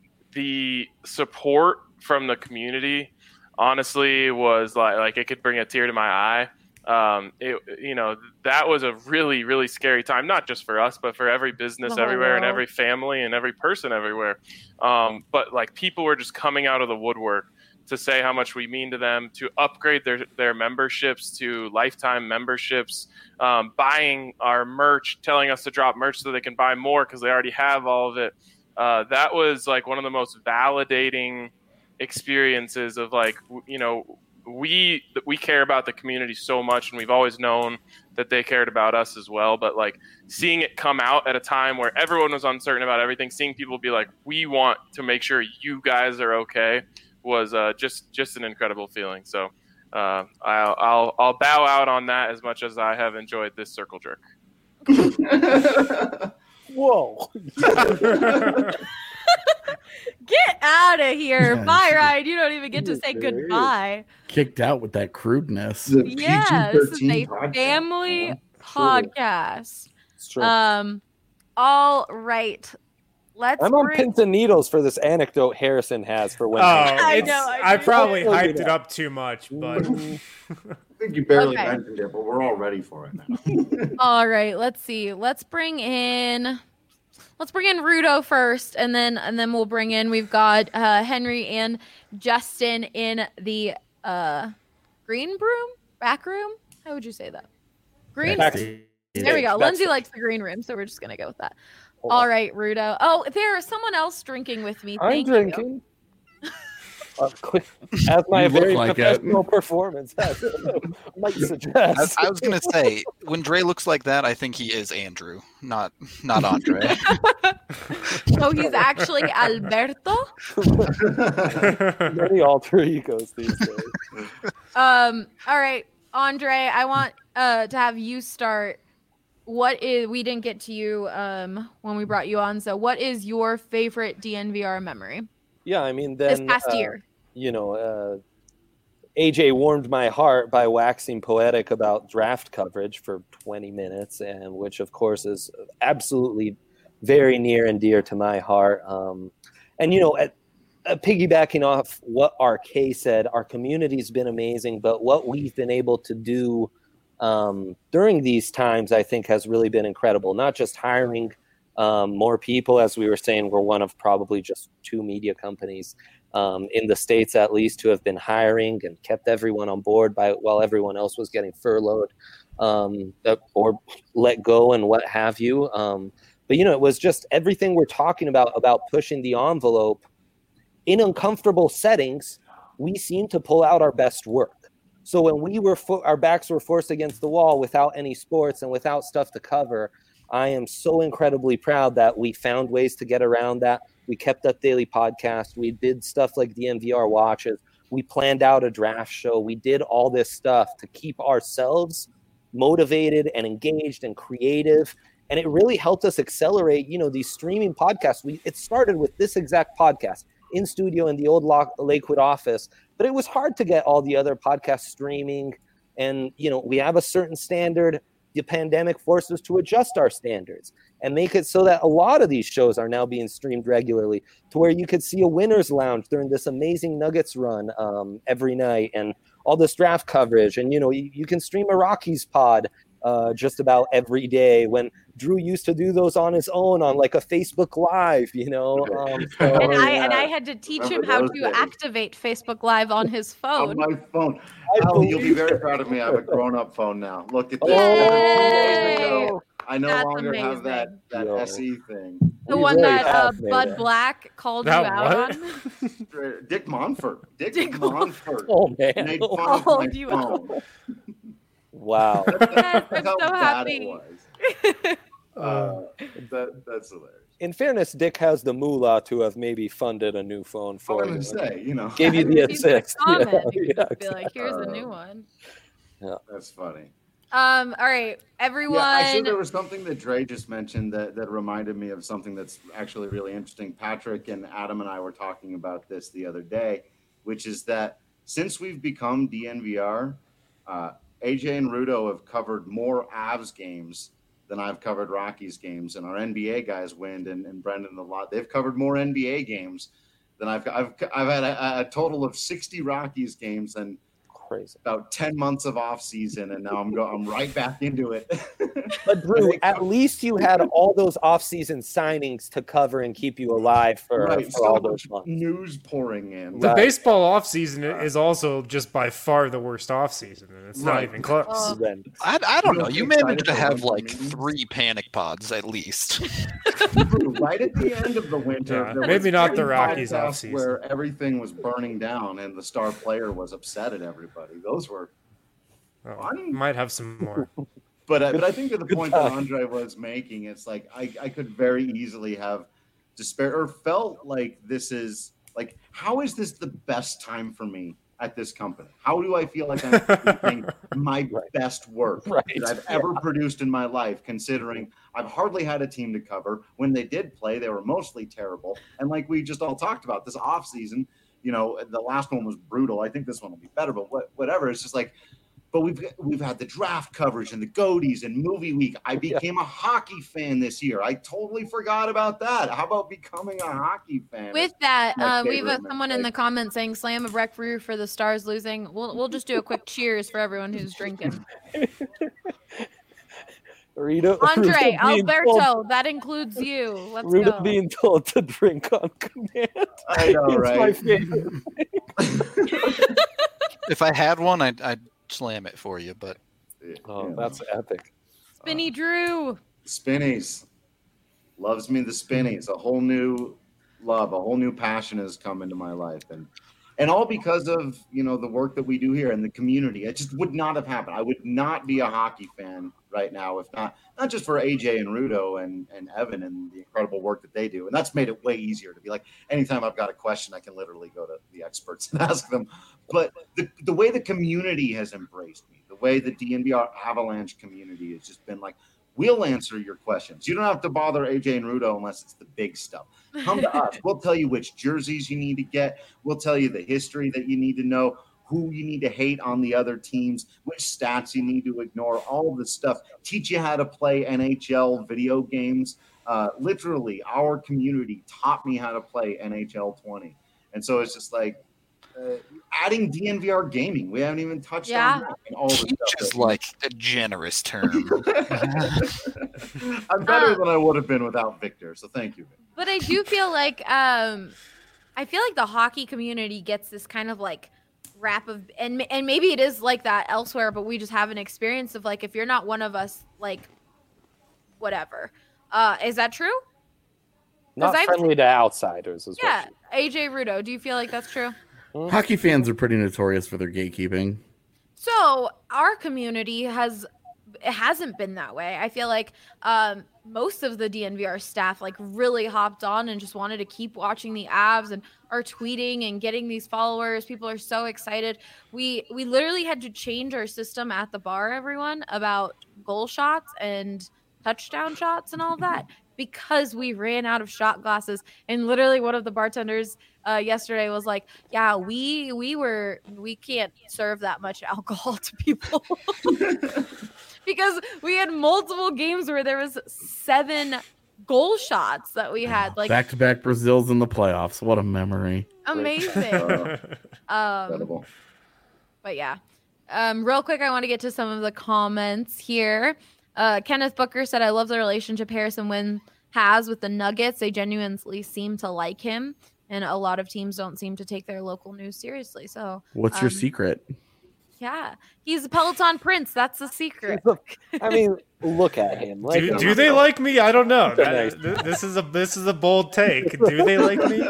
the support from the community honestly was like, like it could bring a tear to my eye. Um, it, you know, that was a really, really scary time, not just for us, but for every business everywhere world. And every family and every person everywhere. Um, but like people were just coming out of the woodwork to say how much we mean to them, to upgrade their, their memberships to lifetime memberships, um, buying our merch, telling us to drop merch so they can buy more because they already have all of it. Uh, that was like one of the most validating experiences of like, you know, we we care about the community so much, and we've always known that they cared about us as well. But like seeing it come out at a time where everyone was uncertain about everything, seeing people be like, we want to make sure you guys are okay, was uh, just just an incredible feeling. So uh, I'll, I'll I'll bow out on that as much as I have enjoyed this circle jerk. Whoa. Get out of here. Yeah, bye, Ryan. You don't even get to say goodbye. Kicked out with that crudeness. Yeah, this is a family yeah, podcast. It's true. Um, all right. Let's I'm on bring... pins and needles for this anecdote Harrison has for when. Oh, I, know, I, I probably hyped it up too much, but I think you barely okay. mentioned it, but we're all ready for it now. All right. Let's see. Let's bring in. let's bring in Rudo first, and then and then we'll bring in. We've got uh, Henry and Justin in the uh, green room, back room. How would you say that? Green. Back- There we go. Backstage. Lindsay likes the green room, so we're just gonna go with that. All right, Rudo. Oh, there is someone else drinking with me. I'm Thank drinking. Uh, quick, as my You look very like it. professional performance has, might I, suggest. I was gonna say, when Dre looks like that, I think he is Andrew, not not Andre. you. So he's actually Alberto. Many alter egos these days. Um. All right, Andre. I want uh to have you start. What is we didn't get to you um when we brought you on. So what is your favorite D N V R memory Yeah, I mean, this then past uh, year? you know, uh, A J warmed my heart by waxing poetic about draft coverage for twenty minutes, and which, of course, is absolutely very near and dear to my heart. Um, and, you know, at, uh, piggybacking off what R K said, our community's been amazing, but what we've been able to do um, during these times, I think, has really been incredible. Not just hiring um, more people, as we were saying, we're one of probably just two media companies um, in the States, at least, who have been hiring and kept everyone on board by while everyone else was getting furloughed um, or let go and what have you. Um, but, you know, it was just everything we're talking about, about pushing the envelope in uncomfortable settings. We seem to pull out our best work. So when we were fo- our backs were forced against the wall without any sports and without stuff to cover, I am so incredibly proud that we found ways to get around that. We kept up daily podcasts. We did stuff like D N V R watches. We planned out a draft show. We did all this stuff to keep ourselves motivated and engaged and creative. And it really helped us accelerate, you know, these streaming podcasts. We it started with this exact podcast in studio in the old Lock, Lakewood office, but it was hard to get all the other podcasts streaming. And, you know, we have a certain standard. The pandemic forced us to adjust our standards and make it so that a lot of these shows are now being streamed regularly, to where you could see a winner's lounge during this amazing Nuggets run um, every night, and all this draft coverage. And, you know, you, you can stream a Rockies pod uh, just about every day, when Drew used to do those on his own on like a Facebook Live, you know. Um, so, And I yeah. and I had to teach him Remember how those to days. activate Facebook Live on his On phone. my phone. I Al, you'll be believe very proud of me. I have a grown-up phone now. Look at this. Yay! I no That's longer have amazing. that, that Yo. S E thing. The We one really that uh, have made Bud it. Black called That you out what? on. Dick Monfort. Dick, Dick Monfort. oh, man. Made fun of Called my you phone. Wow. Yes, I'm That's how so bad happy. it was. Uh, that, that's hilarious. In fairness, Dick has the moolah to have maybe funded a new phone I for was you. going to say, you know, Gave you the Maybe put a assist. comment. Yeah, You could yeah, just be like, here's a new Um, one. that's funny. Um, all right, everyone. Yeah, actually, there was something that Dre just mentioned that, that reminded me of something that's actually really interesting. Patrick and Adam and I were talking about this the other day, which is that since we've become D N V R, uh, A J and Rudo have covered more Avs games than I've covered Rockies games, and our N B A guys, Wind and, and Brendan, a lot. They've covered more N B A games than I've. I've I've had a, a total of sixty Rockies games and Crazy. about ten months of off season, and now I'm go I'm right back into it. But Drew, at least you had all those off-season signings to cover and keep you alive for, right, for so all much those months. news pouring in. The Right. baseball offseason is also just by far the worst offseason, and it's not Right. even close. Oh. Horrendous. I, I don't You know. don't You get excited managed to for have one like meetings? three panic pods at least. True. Right at the end of the winter, Yeah, there maybe was not the three Rockies podcasts offseason. where everything was burning down and the star player was upset at everybody. Those were, Oh, Fun. might have some more. but I, but I think that the Good point that time. Andre was making, it's like I, I could very easily have despair or felt like this is like, how is this the best time for me at this company? How do I feel like I'm producing my Right. best work Right. that I've ever produced in my life, considering I've hardly had a team to cover. When they did play, they were mostly terrible. And like we just all talked about, this off season, you know, the last one was brutal. I think this one will be better, but what, whatever. It's just like, but we've we've had the draft coverage and the Goaties and movie week. I became a hockey fan this year. I totally forgot about that. How about becoming a hockey fan? With that, My uh, we have favorite a, someone in the mistake. comments saying "Slam of Rec Brew" for the Stars losing. We'll we'll just do a quick cheers for everyone who's drinking. Rita, Andre, Rita being Alberto, told- that includes you. Let's Rita go. being told to drink on command. I know, It's right? my favorite. If I had one, I'd, I'd slam it for you. But Oh, Yeah. that's epic. Spinny Drew. Spinnies. Loves me the spinnies. A whole new love, a whole new passion has come into my life. And and all because of, you know, the work that we do here and the community. It just would not have happened. I would not be a hockey fan right now if not, not just for A J and Rudo and, and Evan and the incredible work that they do. And that's made it way easier to be like, anytime I've got a question, I can literally go to the experts and ask them. But the, the way the community has embraced me, the way the D N V R Avalanche community has just been like, we'll answer your questions. You don't have to bother A J and Rudo unless it's the big stuff. Come to us. We'll tell you which jerseys you need to get. We'll tell you the history that you need to know, who you need to hate on the other teams, which stats you need to ignore, all of this stuff. Teach you how to play N H L video games. Uh, literally, our community taught me how to play N H L twenty. And so it's just like, Uh, adding D N V R gaming, we haven't even touched Yeah. on that. And all the teach stuff is that- like a generous term. I'm better Uh, than I would have been without Victor. So thank you. But I do feel like um I feel like the hockey community gets this kind of like rap of and and maybe it is like that elsewhere, but we just have an experience of like if you're not one of us, like whatever. Uh is that true? Not I've- friendly to outsiders as Yeah. well. A J Rudo, do you feel like that's true? Hockey fans are pretty notorious for their gatekeeping. So our community has it hasn't been that way. I feel like um, most of the D N V R staff like really hopped on and just wanted to keep watching the Avs and are tweeting and getting these followers. People are so excited. We we literally had to change our system at the bar, everyone, about goal shots and touchdown shots and all of that because we ran out of shot glasses. And literally one of the bartenders uh, yesterday was like, yeah, we we were we can't serve that much alcohol to people because we had multiple games where there was seven goal shots that we had. Like Back to back Brazils in the playoffs. What a memory. amazing. Uh, Um, incredible. but yeah, um, real quick, I want to get to some of the comments here. Uh, Kenneth Booker said, "I love the relationship Harrison Wynn has with the Nuggets. They genuinely seem to like him, and a lot of teams don't seem to take their local news seriously." So, What's your um, secret? Yeah, he's a Peloton Prince. That's the secret. I mean, look at him. Like, Do, do they like me? I don't know. That- th- this is a this is a bold take. Do they like me?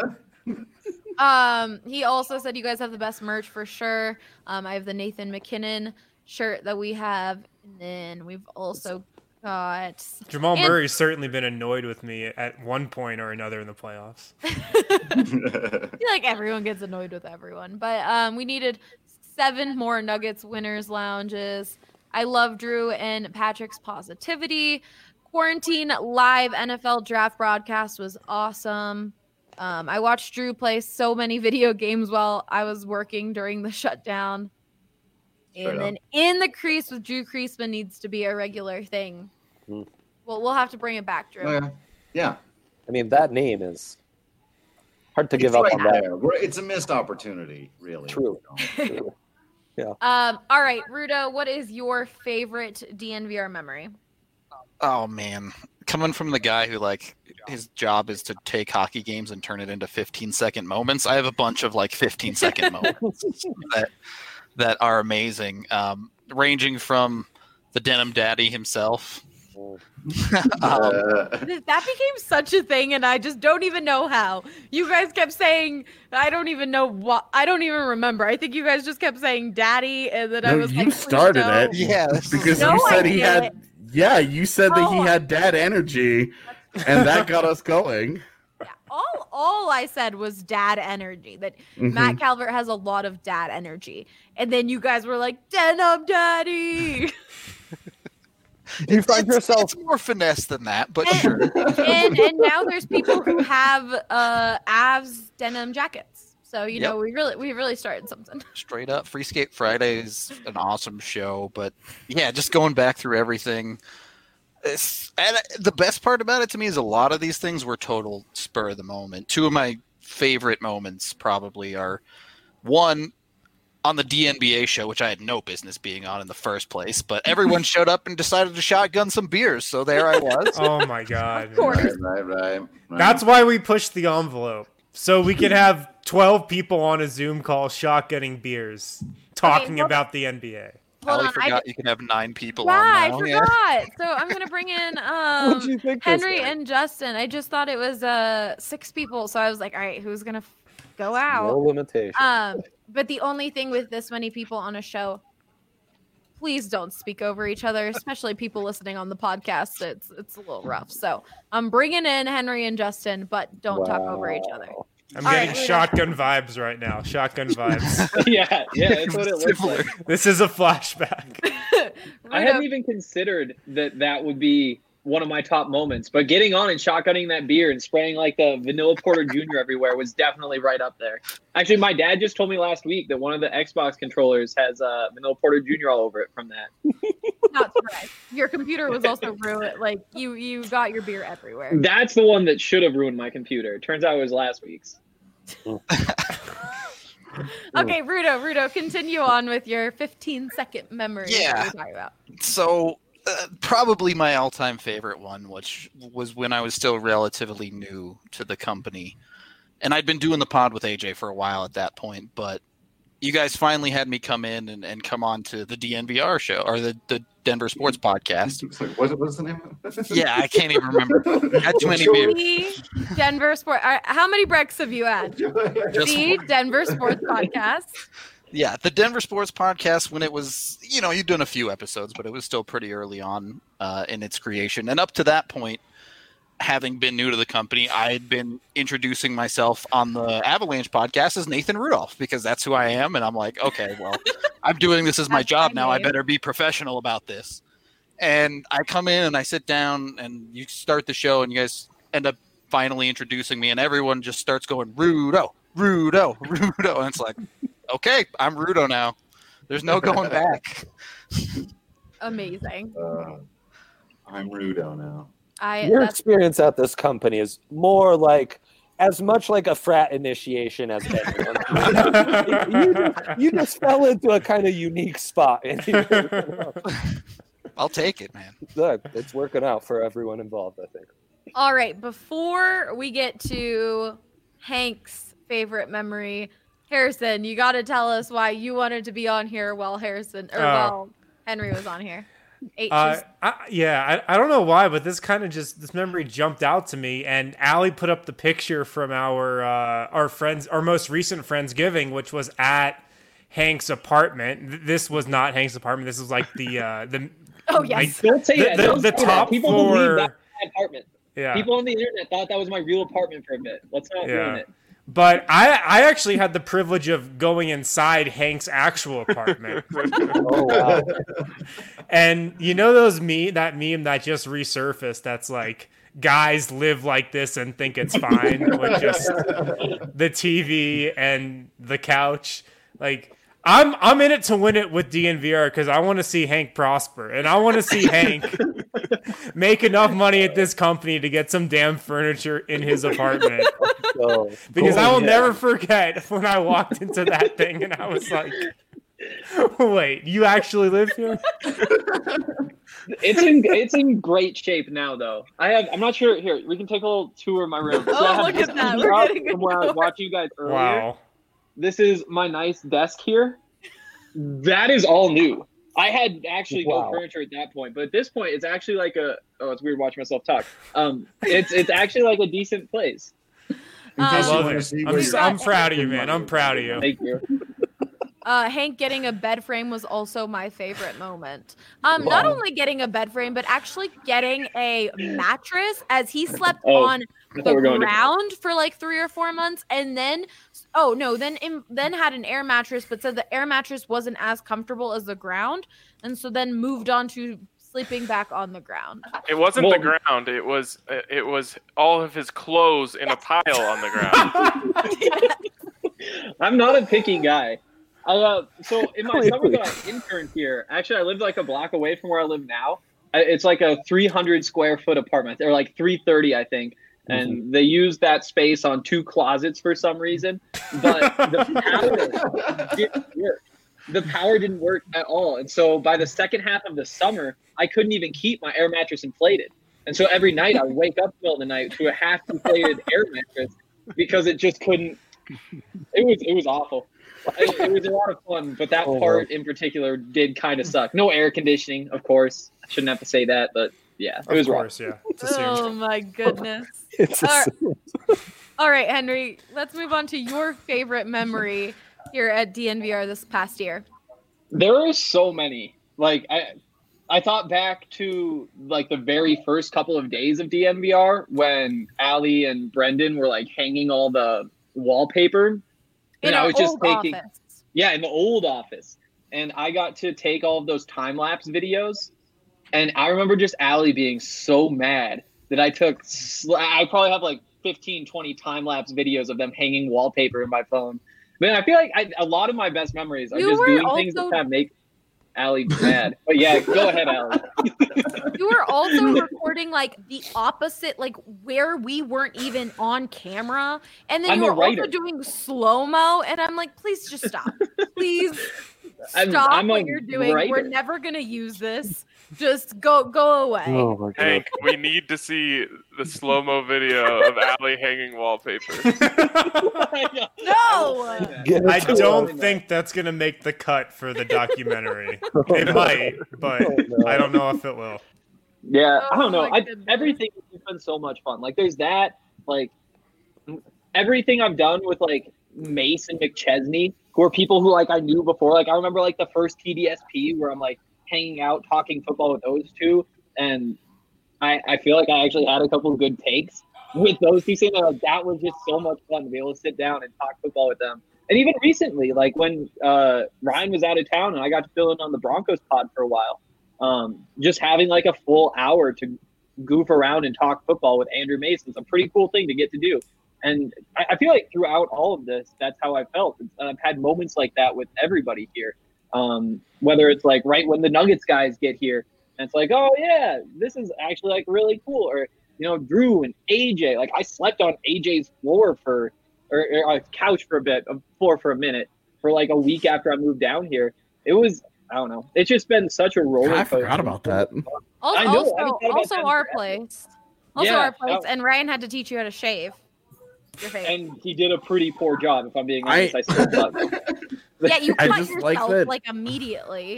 Um, he also said you guys have the best merch for sure. Um, I have the Nathan McKinnon shirt that we have, and then we've also got Jamal And- Murray's certainly been annoyed with me at one point or another in the playoffs. I feel like everyone gets annoyed with everyone, but um, we needed seven more Nuggets winners lounges. I love Drew and Patrick's positivity. Quarantine live N F L draft broadcast was awesome. Um, I watched Drew play so many video games while I was working during the shutdown. Straight And up. then in the crease with Drew Creasman needs to be a regular thing. Hmm. Well, we'll have to bring it back, Drew. Oh, yeah. Yeah. I mean, that name is hard to give It's up right on that. there. We're- it's a missed opportunity, really. True. You know? True. Yeah. Um, all right, Rudo, what is your favorite D N V R memory? Oh man, coming from the guy who like his job is to take hockey games and turn it into fifteen second moments. I have a bunch of like fifteen second moments that that are amazing, um, ranging from the Denim Daddy himself. um, Uh, That became such a thing, and I just don't even know how. You guys kept saying, I don't even know what, I don't even remember. I think you guys just kept saying daddy, and then I No, was you like, please started no. it. yeah, this is- Because No, you said I he had didn't. yeah, you said that he No. had dad energy and that got us going. Yeah, all, all I said was dad energy, that Mhm. Matt Calvert has a lot of dad energy. And then you guys were like, denim daddy. You find it's, yourself it's more finesse than that, but And- sure. and and now there's people who have uh Avs denim jackets. So you Yep. know we really we really started something. Straight up, Free Skate Friday is an awesome show, but yeah, just going back through everything. It's, and the best part about it to me is a lot of these things were total spur of the moment. Two of my favorite moments probably are one. on the D N B A show, which I had no business being on in the first place, but everyone showed up and decided to shotgun some beers, so there I was. Oh my god! Of course. Right, right, right, right. That's why we pushed the envelope, so we could have twelve people on a Zoom call shotgunning beers, talking Okay, well- about the N B A. Hold Allie on, forgot I, you can have nine people yeah, on I now. forgot. So I'm gonna bring in What'd you um, think this Henry was? and Justin. I just thought it was uh six people, so I was like, all right, who's gonna f- go out? No limitation. Um, but the only thing with this many people on a show, please don't speak over each other, especially people listening on the podcast. It's it's a little rough. So I'm bringing in Henry and Justin, but don't talk over each other. Wow. I'm All getting right, Rudo. shotgun vibes right now. Shotgun vibes. yeah, yeah, that's what it looks Similar. like. This is a flashback. I hadn't even considered that that would be one of my top moments, but getting on and shotgunning that beer and spraying like the vanilla porter junior everywhere was definitely right up there. Actually, my dad just told me last week that one of the Xbox controllers has uh, vanilla porter junior all over it from that. Not surprised. Your computer was also ruined. Like you, you got your beer everywhere. That's the one that should have ruined my computer. Turns out it was last week's. Okay, Rudo, Rudo, continue on with your fifteen second memory. Yeah. That we're talking about. So uh, probably my all-time favorite one, which was when I was still relatively new to the company, and I'd been doing the pod with A J for a while at that point, but you guys finally had me come in and, and come on to the D N V R show, or the, the Denver Sports Podcast. What was the name of it? Yeah, I can't even remember. I had too many beers. The Denver Sport. uh, How many breaks have you had? Just The Denver Sports Podcast. Yeah, the Denver Sports Podcast, when it was, you know, you'd done a few episodes, but it was still pretty early on uh, in its creation. And up to that point, having been new to the company, I had been introducing myself on the Avalanche podcast as Nathan Rudolph, because that's who I am. And I'm like, okay, well, I'm doing this as my That's job my now. I name. better be professional about this. And I come in and I sit down and you start the show and you guys end up finally introducing me and everyone just starts going, Rudo, Rudo, Rudo. And it's like, okay, I'm Rudo now. There's no going back. Amazing. Uh, I'm Rudo now. I Your that's, experience at this company is more like as much like a frat initiation as anyone. you, just, you just fell into a kind of unique spot. And you- I'll take it, man. Look, it's working out for everyone involved, I think. all right. Before we get to Hank's favorite memory, Harrison, you got to tell us why you wanted to be on here while Harrison or Oh. while Henry was on here. H Uh, is- I, yeah, I, I don't know why, but this kind of just this memory jumped out to me. And Allie put up the picture from our uh, our friends, our most recent Friendsgiving, which was at Hank's apartment. Th- This was not Hank's apartment. This was like the uh, the oh yes. Don't say The- that. the- Don't the say that. top People floor- believe that was my apartment. yeah. People on the internet thought that was my real apartment for a bit. Let's not Yeah. ruin it. But I I actually had the privilege of going inside Hank's actual apartment. Oh, wow. And you know those me that meme that just resurfaced that's like guys live like this and think it's fine with just the T V and the couch. Like I'm I'm in it to win it with D N V R because I want to see Hank prosper and I want to see Hank make enough money at this company to get some damn furniture in his apartment. So, Because cool, I will yeah. never forget when I walked into that thing and I was like, wait, you actually live here? It's in it's in great shape now, though. I have. I'm not sure. Here, we can take a little tour of my room. So Oh, I have look this at that. T V We're up getting a from where I was tour. watching you guys earlier. Wow. This is my nice desk here. That is all new. I had actually Wow. no furniture at that point, but at this point, it's actually like a. Oh, it's weird watching myself talk. Um, it's it's actually like a decent place. I Um, love wanna it. see I'm, where s- you're I'm at. proud of you, man. I'm proud of you. Thank you. Uh, Hank getting a bed frame was also my favorite moment. Um, not Wow. only getting a bed frame, but actually getting a mattress as he slept Oh, on I thought the we were going to- ground for like three or four months, and then oh no, then in, then had an air mattress, but said the air mattress wasn't as comfortable as the ground, and so then moved on to sleeping back on the ground. It wasn't the Well- ground. It was it was all of his clothes in a pile on the ground. I'm not a picky guy. I, uh, so in my Wait, summer wait. that I interned here, actually I lived like a block away from where I live now. I- It's like a three hundred square foot apartment, or like three thirty, I think. And they used that space on two closets for some reason. But the power didn't work. the power didn't work at all. And so by the second half of the summer, I couldn't even keep my air mattress inflated. And so every night I would wake up in the middle of the night to a half inflated air mattress because it just couldn't. It was it was awful. It, it was a lot of fun, but that Oh, part in particular did kind of suck. No air conditioning, of course. I shouldn't have to say that, but yeah, it Of was rough. course, yeah. It's assumed. Oh my goodness. It's All right. assumed. All right, Henry, let's move on to your favorite memory here at D N V R this past year. There are so many. Like I I thought back to like the very first couple of days of D N V R when Allie and Brendan were like hanging all the wallpaper. In And I our was just old taking office. Yeah, in the old office. And I got to take all of those time lapse videos. And I remember just Allie being so mad that I took sl- I probably have like fifteen, twenty time lapse videos of them hanging wallpaper in my phone. Man, I feel like I, a lot of my best memories are You just were doing things that also- kind of make Allie mad. But yeah, go ahead, Allie. You were also recording like the opposite, like where we weren't even on camera. And then I'm you a were also writer. doing slow-mo. And I'm like, please just stop. Please I'm- stop I'm a what you're doing. We're writer. never gonna use this. Just go go away. Oh my god. Hank, we need to see the slow mo video of Allie hanging wallpaper. No. Get I it to don't him. think that's gonna make the cut for the documentary. It might, but Oh, no. I don't know if it will. Yeah, I Oh don't know. my I, goodness. everything has been so much fun. Like, there's that. Like, everything I've done with like Mace and McChesney, who are people who like I knew before. Like, I remember like the first T D S P where I'm like hanging out talking football with those two, and I I feel like I actually had a couple of good takes with those two. Saying that, like, that was just so much fun to be able to sit down and talk football with them. And even recently, like when uh, Ryan was out of town and I got to fill in on the Broncos pod for a while. Um, just having like a full hour to goof around and talk football with Andrew Mason is a pretty cool thing to get to do. And I, I feel like throughout all of this, that's how I felt. And I've had moments like that with everybody here. Um, whether it's like right when the Nuggets guys get here and it's like, oh yeah, this is actually like really cool. Or, you know, Drew and A J, like I slept on A J's floor for, or, or a couch for a bit, a floor for a minute for like a week after I moved down here. It was, I don't know. It's just been such a roller I coaster. forgot about that. Also, I know, I also, haven't thought about also that our in forever. place. Also Yeah, our place. that- And Ryan had to teach you how to shave your face. And he did a pretty poor job, if I'm being I- honest. I, still thought. yeah, you I cut just yourself like that- like immediately.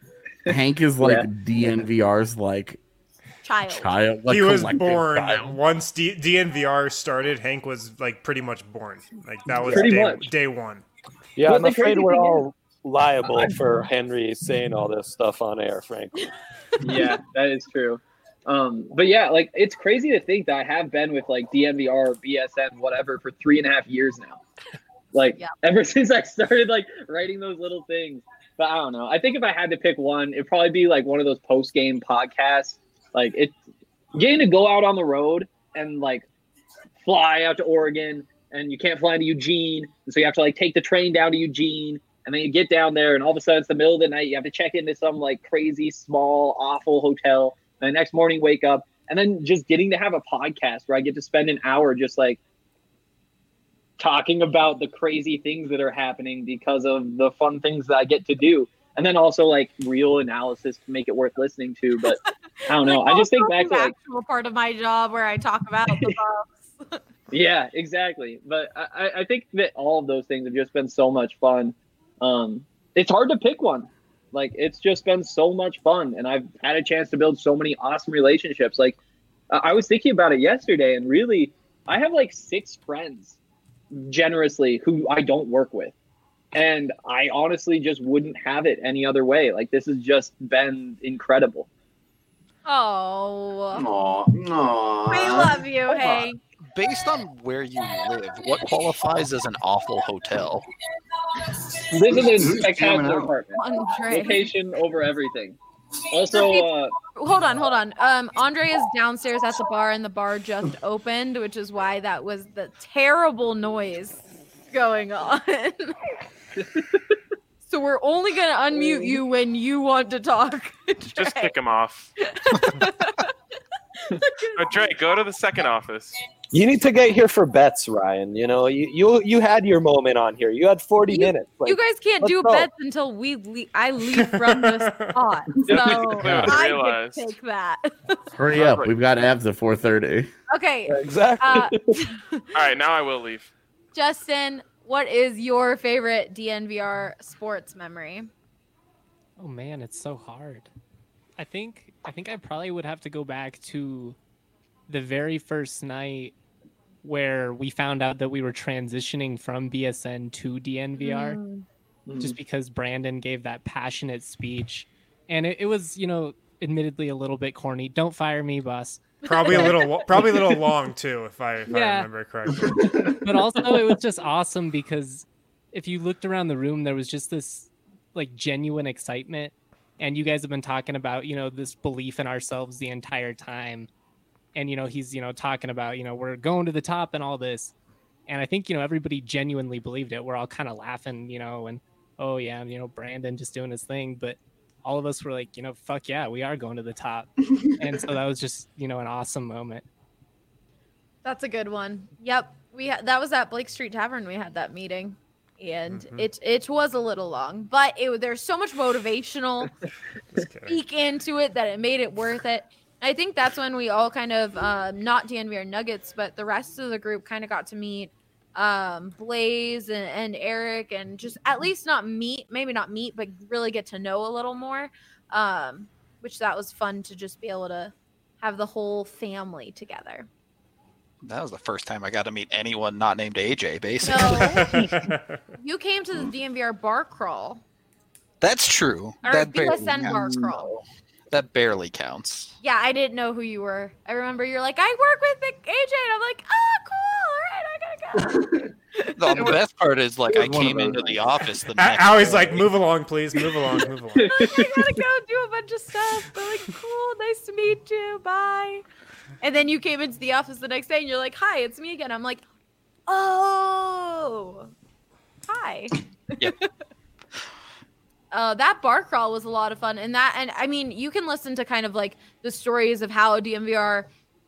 Hank is like Yeah. D N V R's like Child. child. Like He was collective born child. once D- DNVR started. Hank was like pretty much born. Like that was Pretty day, much. day one. Yeah, But I'm the afraid crazy we're thing all liable for Henry saying all this stuff on air, frankly. Yeah, that is true. Um, but yeah, like it's crazy to think that I have been with like D N V R, B S N, whatever, for three and a half years now. Like Yeah. ever since I started like writing those little things. But I don't know. I think if I had to pick one, it'd probably be like one of those post game podcasts. Like it, getting to go out on the road and like fly out to Oregon, and you can't fly to Eugene, and so you have to like take the train down to Eugene, and then you get down there, and all of a sudden it's the middle of the night. You have to check into some like crazy small awful hotel, and the next morning wake up, and then just getting to have a podcast where I get to spend an hour just like talking about the crazy things that are happening because of the fun things that I get to do. And then also like real analysis to make it worth listening to. But I don't know. Like, I just think also back to the like, actual part of my job where I talk about the Bucks. yeah, exactly. But I, I- I think that all of those things have just been so much fun. Um, it's hard to pick one. Like it's just been so much fun. And I've had a chance to build so many awesome relationships. Like I I was thinking about it yesterday, and really I have like six friends generously who I don't work with. And I honestly just wouldn't have it any other way. Like this has just been incredible. Oh, Aw, aw. we love you, Hold on. Hank. Based on where you live, what qualifies as an awful hotel? This is a Who's jamming spectacular out? apartment. Andre. Location over everything. Also, uh, Hold on, hold on. Um, Andre is downstairs at the bar, and the bar just opened, which is why that was the terrible noise going on. So we're only gonna unmute you when you want to talk. Just Trey. kick him off. But Dre, go to the second office. You need to get here for bets, Ryan. You know, you you, you had your moment on here. You had forty You, minutes. Like, you guys can't let's do go. bets until we le- I leave from the spot. So Yeah. I Realize. get to take that. Hurry up. We've got abs at four thirty. Okay. Exactly. Uh, All right, now I will leave. Justin, what is your favorite D N V R sports memory? Oh man, it's so hard. I think I think I probably would have to go back to the very first night where we found out that we were transitioning from B S N to D N V R, Mm. just because Brandon gave that passionate speech. And it, it was, you know, admittedly a little bit corny. Don't fire me, boss. Probably a little, probably a little long too, if I, if Yeah. I remember correctly. But also it was just awesome because if you looked around the room, there was just this like genuine excitement. And you guys have been talking about, you know, this belief in ourselves the entire time. And, you know, he's, you know, talking about, you know, we're going to the top and all this. And I think, you know, everybody genuinely believed it. We're all kind of laughing, you know, and, oh, yeah, you know, Brandon just doing his thing. But all of us were like, you know, fuck yeah, we are going to the top. And so that was just, you know, an awesome moment. That's a good one. Yep. We had that was at Blake Street Tavern. We had that meeting. And Mhm. it it was a little long, but it there's so much motivational speak into it that it made it worth it. I think that's when we all kind of um, not D N V R Nuggets, but the rest of the group kind of got to meet um, Blaze and, and Eric, and just at least not meet, maybe not meet, but really get to know a little more. Um, which that was fun to just be able to have the whole family together. That was the first time I got to meet anyone not named A J, basically. No, you came to the D N V R bar crawl. That's true. Or That B S barely, N bar crawl. that barely counts. Yeah, I didn't know who you were. I remember you're like, I work with A J, and I'm like, oh, cool. All right, I gotta go. The, the best part is, like, It I was one of came those, into like- the office the I, next I was day. like, move along, please, move along, move along. I'm like, I gotta go do a bunch of stuff. They're like, cool, nice to meet you. Bye. And then you came into the office the next day, and you're like, hi, it's me again. I'm like, oh, hi. Yep. Uh, that bar crawl was a lot of fun, and that, and I mean, you can listen to kind of like the stories of how D N V R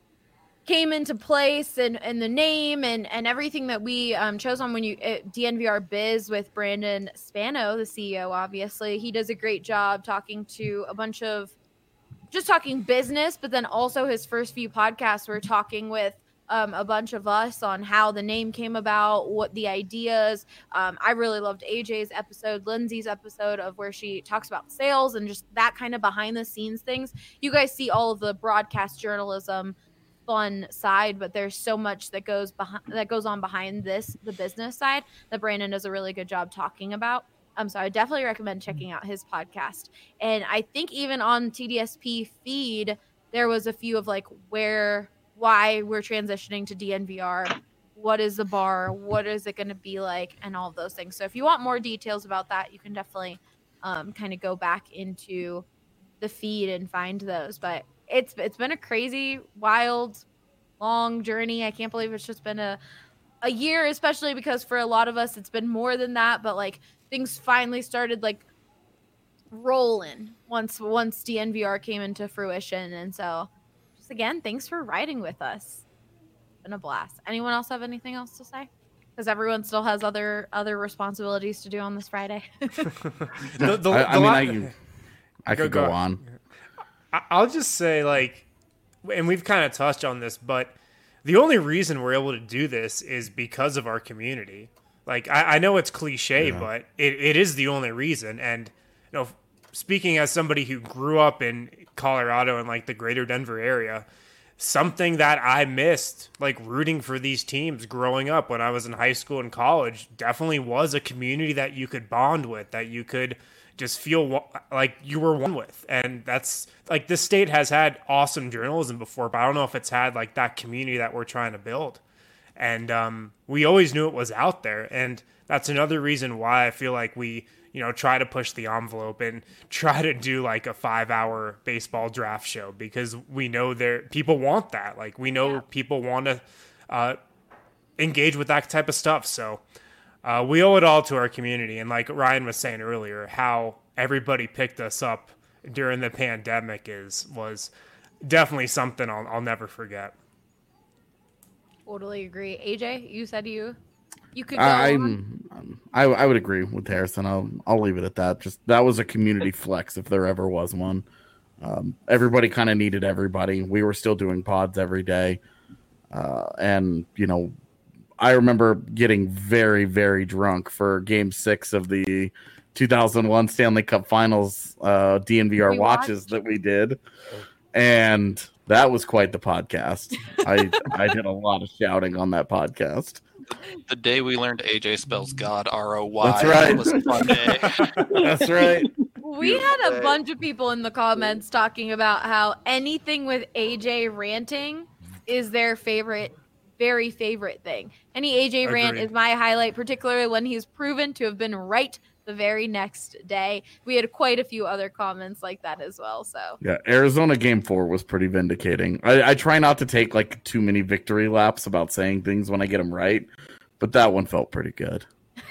came into place, and, and the name, and, and everything that we um, chose on when you uh, D N V R Biz with Brandon Spano, the C E O. Obviously, he does a great job talking to a bunch of just talking business, but then also his first few podcasts were talking with Um, a bunch of us on how the name came about, what the ideas. Um, I really loved A J's episode, Lindsay's episode of where she talks about sales and just that kind of behind the scenes things. You guys see all of the broadcast journalism fun side, but there's so much that goes behind that goes on behind this, the business side, that Brandon does a really good job talking about. Um, so I definitely recommend checking out his podcast. And I think even on T D S P feed, there was a few of like where why we're transitioning to D N V R, what is the bar, what is it going to be like, and all of those things. So if you want more details about that, you can definitely um, kind of go back into the feed and find those. But it's it's been a crazy, wild, long journey. I can't believe it's just been a a year, especially because for a lot of us, it's been more than that. But like things finally started like rolling once once D N V R came into fruition, and so. Again, thanks for riding with us. It's been a blast. Anyone else have anything else to say? Because everyone still has other other responsibilities to do on this Friday. The- the- I, I the mean, la- I, I Go- could go go on. on. I- I'll just say, like, and we've kind of touched on this, but the only reason we're able to do this is because of our community. Like, I, I know it's cliche, Yeah. but it, it is the only reason. And, you know, speaking as somebody who grew up in Colorado and like the greater Denver area, something that I missed, like rooting for these teams growing up when I was in high school and college, definitely was a community that you could bond with, that you could just feel wa- like you were one with. And that's like, this state has had awesome journalism before, but I don't know if it's had like that community that we're trying to build. And um, we always knew it was out there. And that's another reason why I feel like we, you know, try to push the envelope and try to do like a five hour baseball draft show, because we know there people want that. Like we know Yeah. people want to uh, engage with that type of stuff. So uh, we owe it all to our community. And like Ryan was saying earlier, how everybody picked us up during the pandemic is, was definitely something I'll, I'll never forget. Totally agree. A J, you said you you could go I, on. I'm, I I would agree with Harrison. I'll I'll leave it at that. Just that was a community flex if there ever was one. Um, everybody kind of needed everybody. We were still doing pods every day, uh, and you know, I remember getting very very drunk for Game Six of the two thousand one Stanley Cup Finals uh, D N V R We watches watched. that we did, and that was quite the podcast. I I did a lot of shouting on that podcast. The day we learned A J spells God R O Y. That's right. Was a fun day. That's right. We had a bunch of people in the comments talking about how anything with A J ranting is their favorite, very favorite thing. Any A J rant Agreed. is my highlight, particularly when he's proven to have been right the very next day. We had quite a few other comments like that as well. So Yeah, Arizona game four was pretty vindicating. I, I try not to take like too many victory laps about saying things when I get them right, but that one felt pretty good.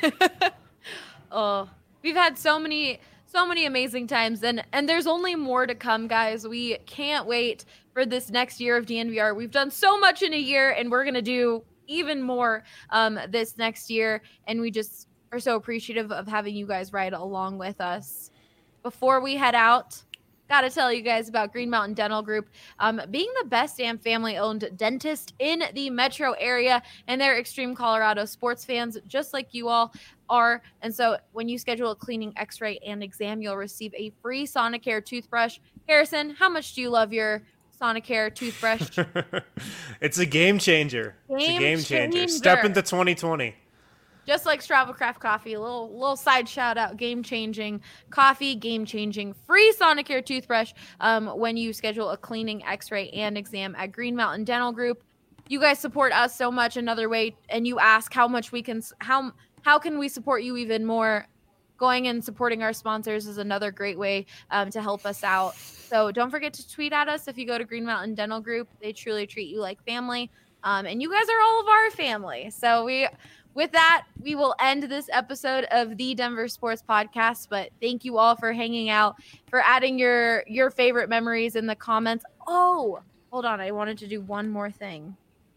oh, we've had so many, so many amazing times, and and there's only more to come, guys. We can't wait for this next year of D N V R. We've done so much in a year, and we're gonna do even more um, this next year, and we just are so appreciative of having you guys ride along with us. Before we head out, got to tell you guys about Green Mountain Dental Group, um, being the best damn family-owned dentist in the metro area, and they're extreme Colorado sports fans, just like you all are. And so when you schedule a cleaning, x-ray, and exam, you'll receive a free Sonicare toothbrush. Harrison, how much do you love your Sonicare toothbrush? It's a game changer. It's a Game game changer. changer. Step into twenty twenty. Just like Stravelcraft coffee, a little little side shout out, game changing coffee, game changing free Sonicare toothbrush um, when you schedule a cleaning, x-ray, and exam at Green Mountain Dental Group. You guys support us so much another way, and you ask how much we can, how how can we support you even more? Going and supporting our sponsors is another great way um, to help us out. So don't forget to tweet at us if you go to Green Mountain Dental Group. They truly treat you like family, um, and you guys are all of our family. So we. With that, we will end this episode of the Denver Sports Podcast, but thank you all for hanging out, for adding your your favorite memories in the comments. Oh, hold on. I wanted to do one more thing.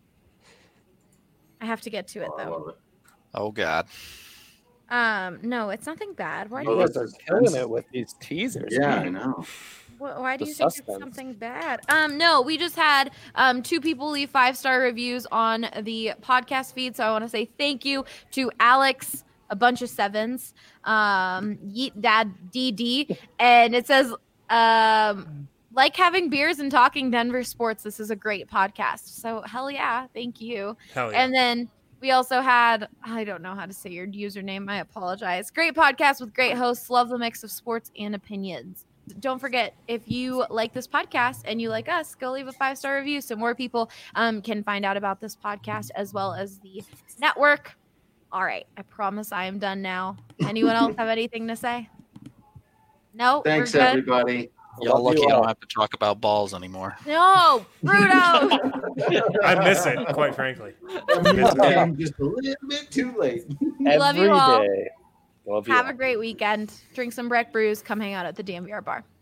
I have to get to it, though. Oh, God. Um, no, it's nothing bad. Why do You you, guys are killing it with these teasers. Yeah, I man. know. wh- why do The you think suspense. it's something bad? Um, no, we just had um two people leave five-star reviews on the podcast feed, so I want to say thank you to Alex, a bunch of sevens, um, Yeet Dad D D, and it says, um, like having beers and talking Denver sports. This is a great podcast. So hell yeah, thank you. Hell yeah. And then we also had, I don't know how to say your username. I apologize. Great podcast with great hosts. Love the mix of sports and opinions. Don't forget, if you like this podcast and you like us, go leave a five-star review so more people um, can find out about this podcast as well as the network. All right. I promise I am done now. Anyone else have anything to say? No? Thanks, we're good? everybody. Y'all Love lucky you I don't all. have to talk about balls anymore. No, Bruno. I miss it, quite frankly. Came just a little bit too late. Love you Every all. day. Love you Have all. a great weekend. Drink some Breck brews. Come hang out at the D M V R bar.